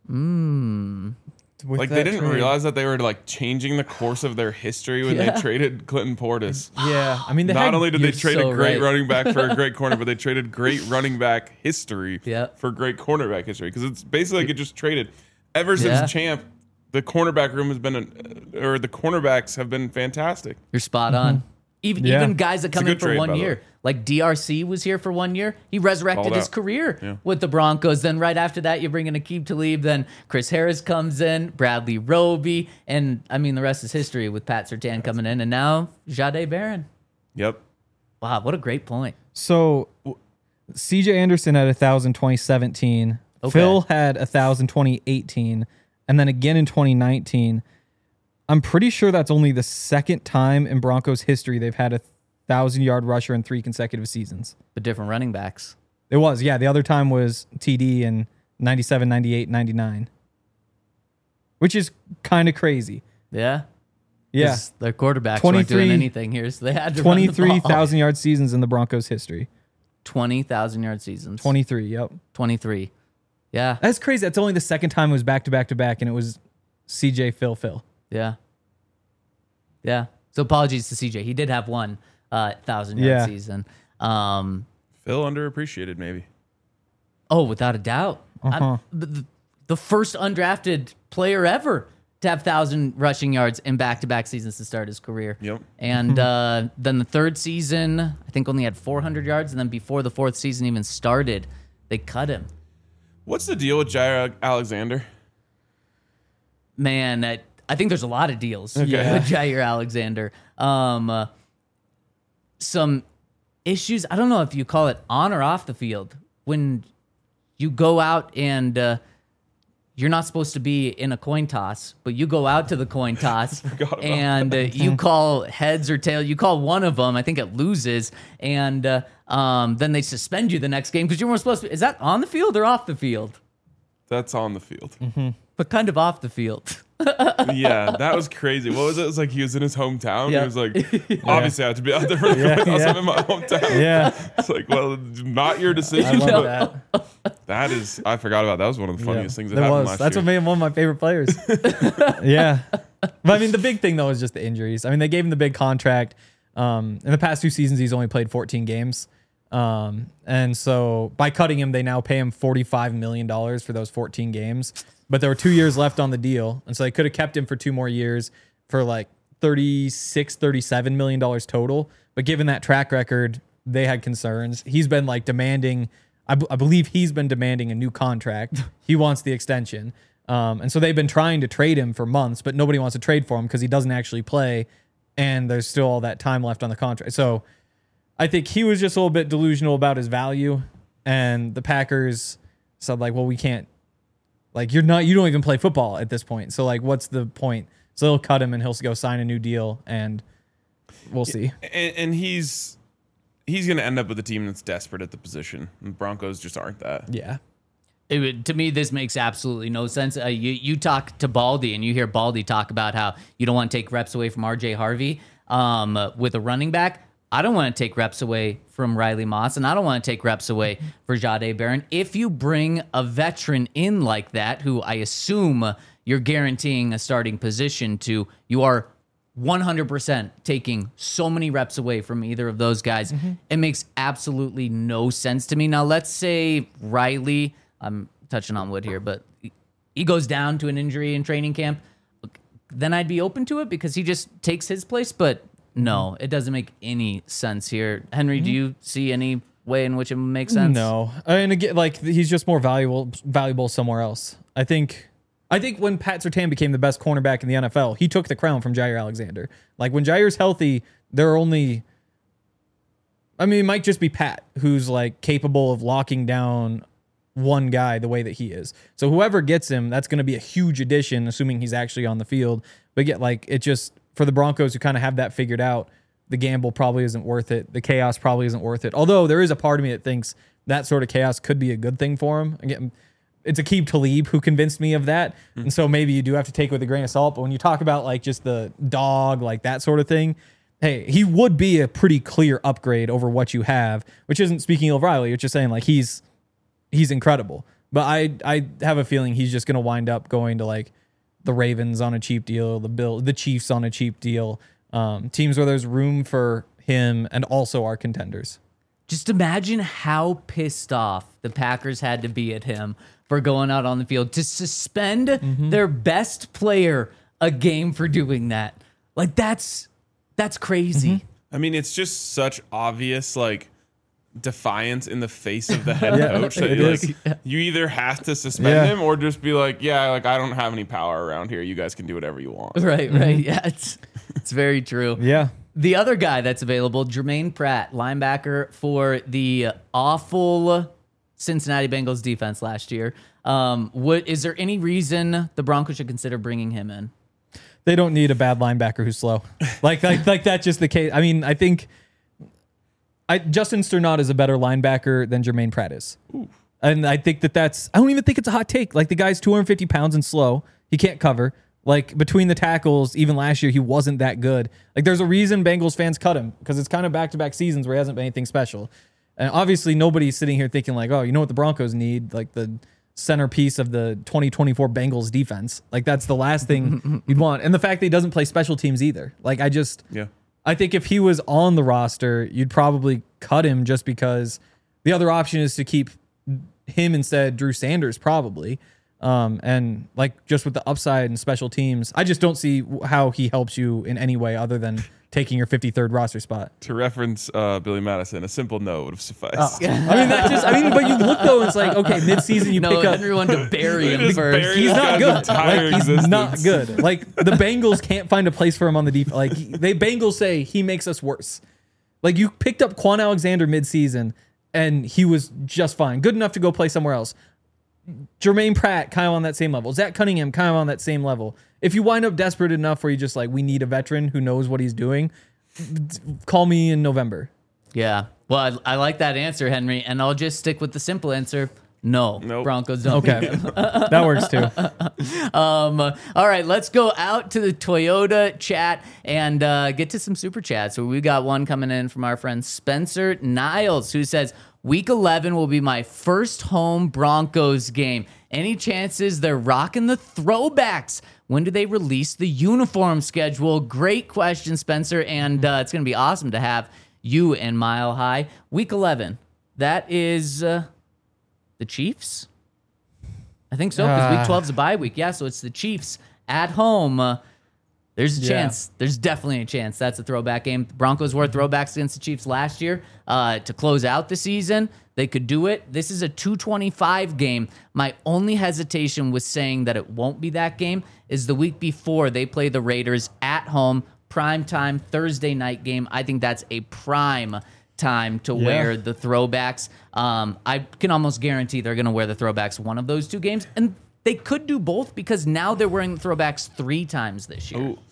Like, they didn't realize that they were like changing the course of their history when they traded Clinton Portis. Yeah, I mean, Not only did they trade so a great right. running back for a great corner, but they traded great running back history Yeah. for great cornerback history. Because it's basically like it just traded. Ever since Champ, the cornerback room has been, or the cornerbacks have been fantastic. You're spot on. Even guys that come a in good for trade, 1 by the year, way. like DRC was here for 1 year. He resurrected Balled his out. career with the Broncos. Then right after that, you bring in Aqib Talib. Then Chris Harris comes in, Bradley Roby, and I mean the rest is history with Pat Surtain coming in, and now Jahdae Barron. Yep. Wow, what a great point. So CJ Anderson had 1,000 2017. Okay. Phil had 1,000 2018, and then again in 2019. I'm pretty sure that's only the second time in Broncos history they've had a 1,000-yard rusher in 3 consecutive seasons. But different running backs. It was, yeah. The other time was TD in 97, 98, 99, which is kind of crazy. Yeah. Yeah. 'Cause their quarterbacks weren't doing 23 anything here, so they had to run the ball. 23,000-yard seasons in the Broncos history. 20,000-yard seasons. 23, yep. 23. Yeah. That's crazy. That's only the second time it was back-to-back-to-back, and it was CJ, Phil. Yeah. Yeah. So apologies to CJ. He did have one 1,000-yard Yeah. season. Phil underappreciated, maybe. Oh, without a doubt. The first undrafted player ever to have 1,000 rushing yards in back-to-back seasons to start his career. Yep. And then the third season, I think only had 400 yards. And then before the fourth season even started, they cut him. What's the deal with Jair Alexander? Man, I think there's a lot of deals with Jair Alexander. Some issues, I don't know if you call it on or off the field, when you go out and you're not supposed to be in a coin toss, but you go out to the coin toss and you call heads or tails. You call one of them, I think it loses, and then they suspend you the next game because you weren't supposed to. Is that on the field or off the field? That's on the field. But kind of off the field. Yeah, that was crazy. What was it? It was like he was in his hometown. Yeah. He was like, obviously I have to be out there for the coin toss. I'm in my hometown. Yeah. It's like, well, not your I decision. love but that. that is, I forgot about that. That was one of the funniest things that That happened was. last That's year. what made him one of my favorite players. Yeah. But I mean, the big thing, though, is just the injuries. I mean, they gave him the big contract. In the past 2 seasons, he's only played 14 games. And so by cutting him, they now pay him $45 million for those 14 games. But there were 2 years left on the deal. And so they could have kept him for 2 more years for like $37 million total. But given that track record, they had concerns. He's been like demanding, I believe he's been demanding a new contract. He wants the extension. And so they've been trying to trade him for months, but nobody wants to trade for him because he doesn't actually play. And there's still all that time left on the contract. So I think he was just a little bit delusional about his value. And the Packers said like, well, we can't, like, you don't even play football at this point. So like, what's the point? So they'll cut him and he'll go sign a new deal and we'll see. And he's going to end up with a team that's desperate at the position. And Broncos just aren't that. Yeah. To me, this makes absolutely no sense. You talk to Baldy and you hear Baldy talk about how you don't want to take reps away from RJ Harvey with a running back. I don't want to take reps away from Riley Moss, and I don't want to take reps away for Jahdae Barron. If you bring a veteran in like that, who I assume you're guaranteeing a starting position to, you are 100% taking so many reps away from either of those guys. It makes absolutely no sense to me. Now, let's say Riley, I'm touching on wood here, but he goes down to an injury in training camp. Then I'd be open to it because he just takes his place, but no, it doesn't make any sense here. Henry, do you see any way in which it makes sense? No. And again, like, he's just more valuable somewhere else. I think when Pat Surtain became the best cornerback in the NFL, he took the crown from Jair Alexander. Like, when Jair's healthy, there are only, I mean, it might just be Pat who's like capable of locking down one guy the way that he is. So whoever gets him, that's going to be a huge addition, assuming he's actually on the field. But get like it just for the Broncos who kind of have that figured out, the gamble probably isn't worth it. The chaos probably isn't worth it. Although there is a part of me that thinks that sort of chaos could be a good thing for him. Again, it's Aqib Talib who convinced me of that. And so maybe you do have to take it with a grain of salt. But when you talk about like just the dog, like that sort of thing, hey, he would be a pretty clear upgrade over what you have, which isn't speaking of Riley. It's just saying like he's incredible. But I have a feeling he's just going to wind up going to like the Ravens on a cheap deal, the Chiefs on a cheap deal, teams where there's room for him and also our contenders. Just imagine how pissed off the Packers had to be at him for going out on the field to suspend their best player a game for doing that. Like that's crazy. I mean, it's just such obvious like defiance in the face of the head coach that you either have to suspend him or just be like, yeah, like I don't have any power around here. You guys can do whatever you want. Right. Yeah, it's very true. Yeah. The other guy that's available, Jermaine Pratt, linebacker for the awful Cincinnati Bengals defense last year. Is there any reason the Broncos should consider bringing him in? They don't need a bad linebacker who's slow. Like that's just the case. I mean, I think Justin Sternad is a better linebacker than Jermaine Pratt is. Ooh. And I think I don't even think it's a hot take. Like the guy's 250 pounds and slow. He can't cover. Like between the tackles, even last year, he wasn't that good. Like there's a reason Bengals fans cut him because it's kind of back-to-back seasons where he hasn't been anything special. And obviously nobody's sitting here thinking like, oh, you know what the Broncos need? Like the centerpiece of the 2024 Bengals defense. Like that's the last thing you'd want. And the fact that he doesn't play special teams either. Like I think if he was on the roster, you'd probably cut him just because the other option is to keep him instead Drew Sanders probably. And like just with the upside and special teams, I just don't see how he helps you in any way other than taking your 53rd roster spot. To reference Billy Madison, a simple no would have sufficed. But you look though, it's like, okay, midseason you pick up. Henry wanted to bury him first. He's not good. He's not good. Like the Bengals can't find a place for him on the defense. Like Bengals say he makes us worse. Like you picked up Quan Alexander midseason and he was just fine. Good enough to go play somewhere else. Jermaine Pratt kind of on that same level. Zach Cunningham kind of on that same level. If you wind up desperate enough where you just like, we need a veteran who knows what he's doing, call me in November. Yeah. Well, I like that answer, Henry, and I'll just stick with the simple answer. No, nope. Broncos don't. Okay, that works too. All right, let's go out to the Toyota chat and get to some super chats. So we got one coming in from our friend Spencer Niles, who says, Week 11 will be my first home Broncos game. Any chances they're rocking the throwbacks? When do they release the uniform schedule? Great question, Spencer, and it's going to be awesome to have you in Mile High. Week 11, that is the Chiefs? I think so, because Week 12 is a bye week. Yeah, so it's the Chiefs at home. There's a chance. There's definitely a chance. That's a throwback game. The Broncos wore throwbacks against the Chiefs last year to close out the season. They could do it. This is a 225 game. My only hesitation with saying that it won't be that game is the week before they play the Raiders at home, prime time, Thursday night game. I think that's a prime time to wear the throwbacks. I can almost guarantee they're going to wear the throwbacks one of those two games. And they could do both because now they're wearing the throwbacks 3 times this year. Ooh.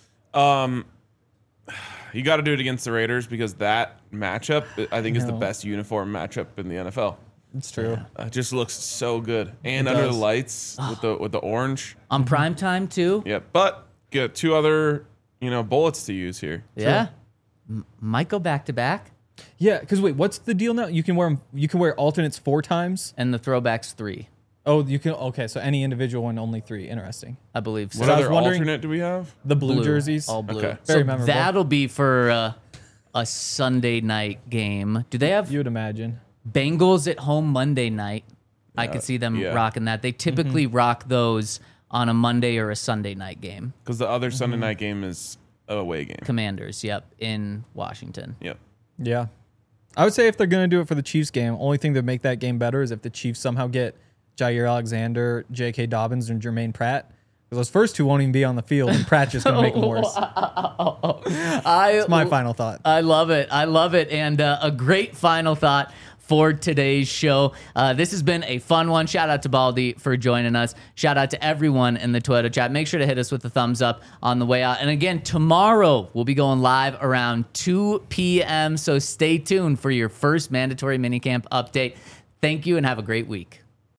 You got to do it against the Raiders because that matchup, I think, is the best uniform matchup in the NFL. It's true. It just looks so good, and under the lights with the orange on prime time too. Yeah, but get 2 other bullets to use here. Yeah, might go back to back. Yeah, because wait, what's the deal now? You can wear alternates 4 times, and the throwbacks 3. Oh, you can. Okay, so any individual one, only 3. Interesting. I believe so. What other alternate do we have? The blue jerseys. All blue. Okay. Very memorable. That'll be for a Sunday night game. Do they have? You would imagine. Bengals at home Monday night. I could see them rocking that. They typically rock those on a Monday or a Sunday night game. Because the other Sunday night game is a away game. Commanders, in Washington. Yep. Yeah. I would say if they're going to do it for the Chiefs game, only thing that make that game better is if the Chiefs somehow get Jair Alexander, J.K. Dobbins, and Jermaine Pratt. Because those first 2 won't even be on the field, and Pratt's just going to make them worse. That's my final thought. I love it. And a great final thought for today's show. This has been a fun one. Shout out to Baldy for joining us. Shout out to everyone in the Twitter chat. Make sure to hit us with a thumbs up on the way out. And again, tomorrow we'll be going live around 2 p.m. So stay tuned for your first mandatory minicamp update. Thank you and have a great week.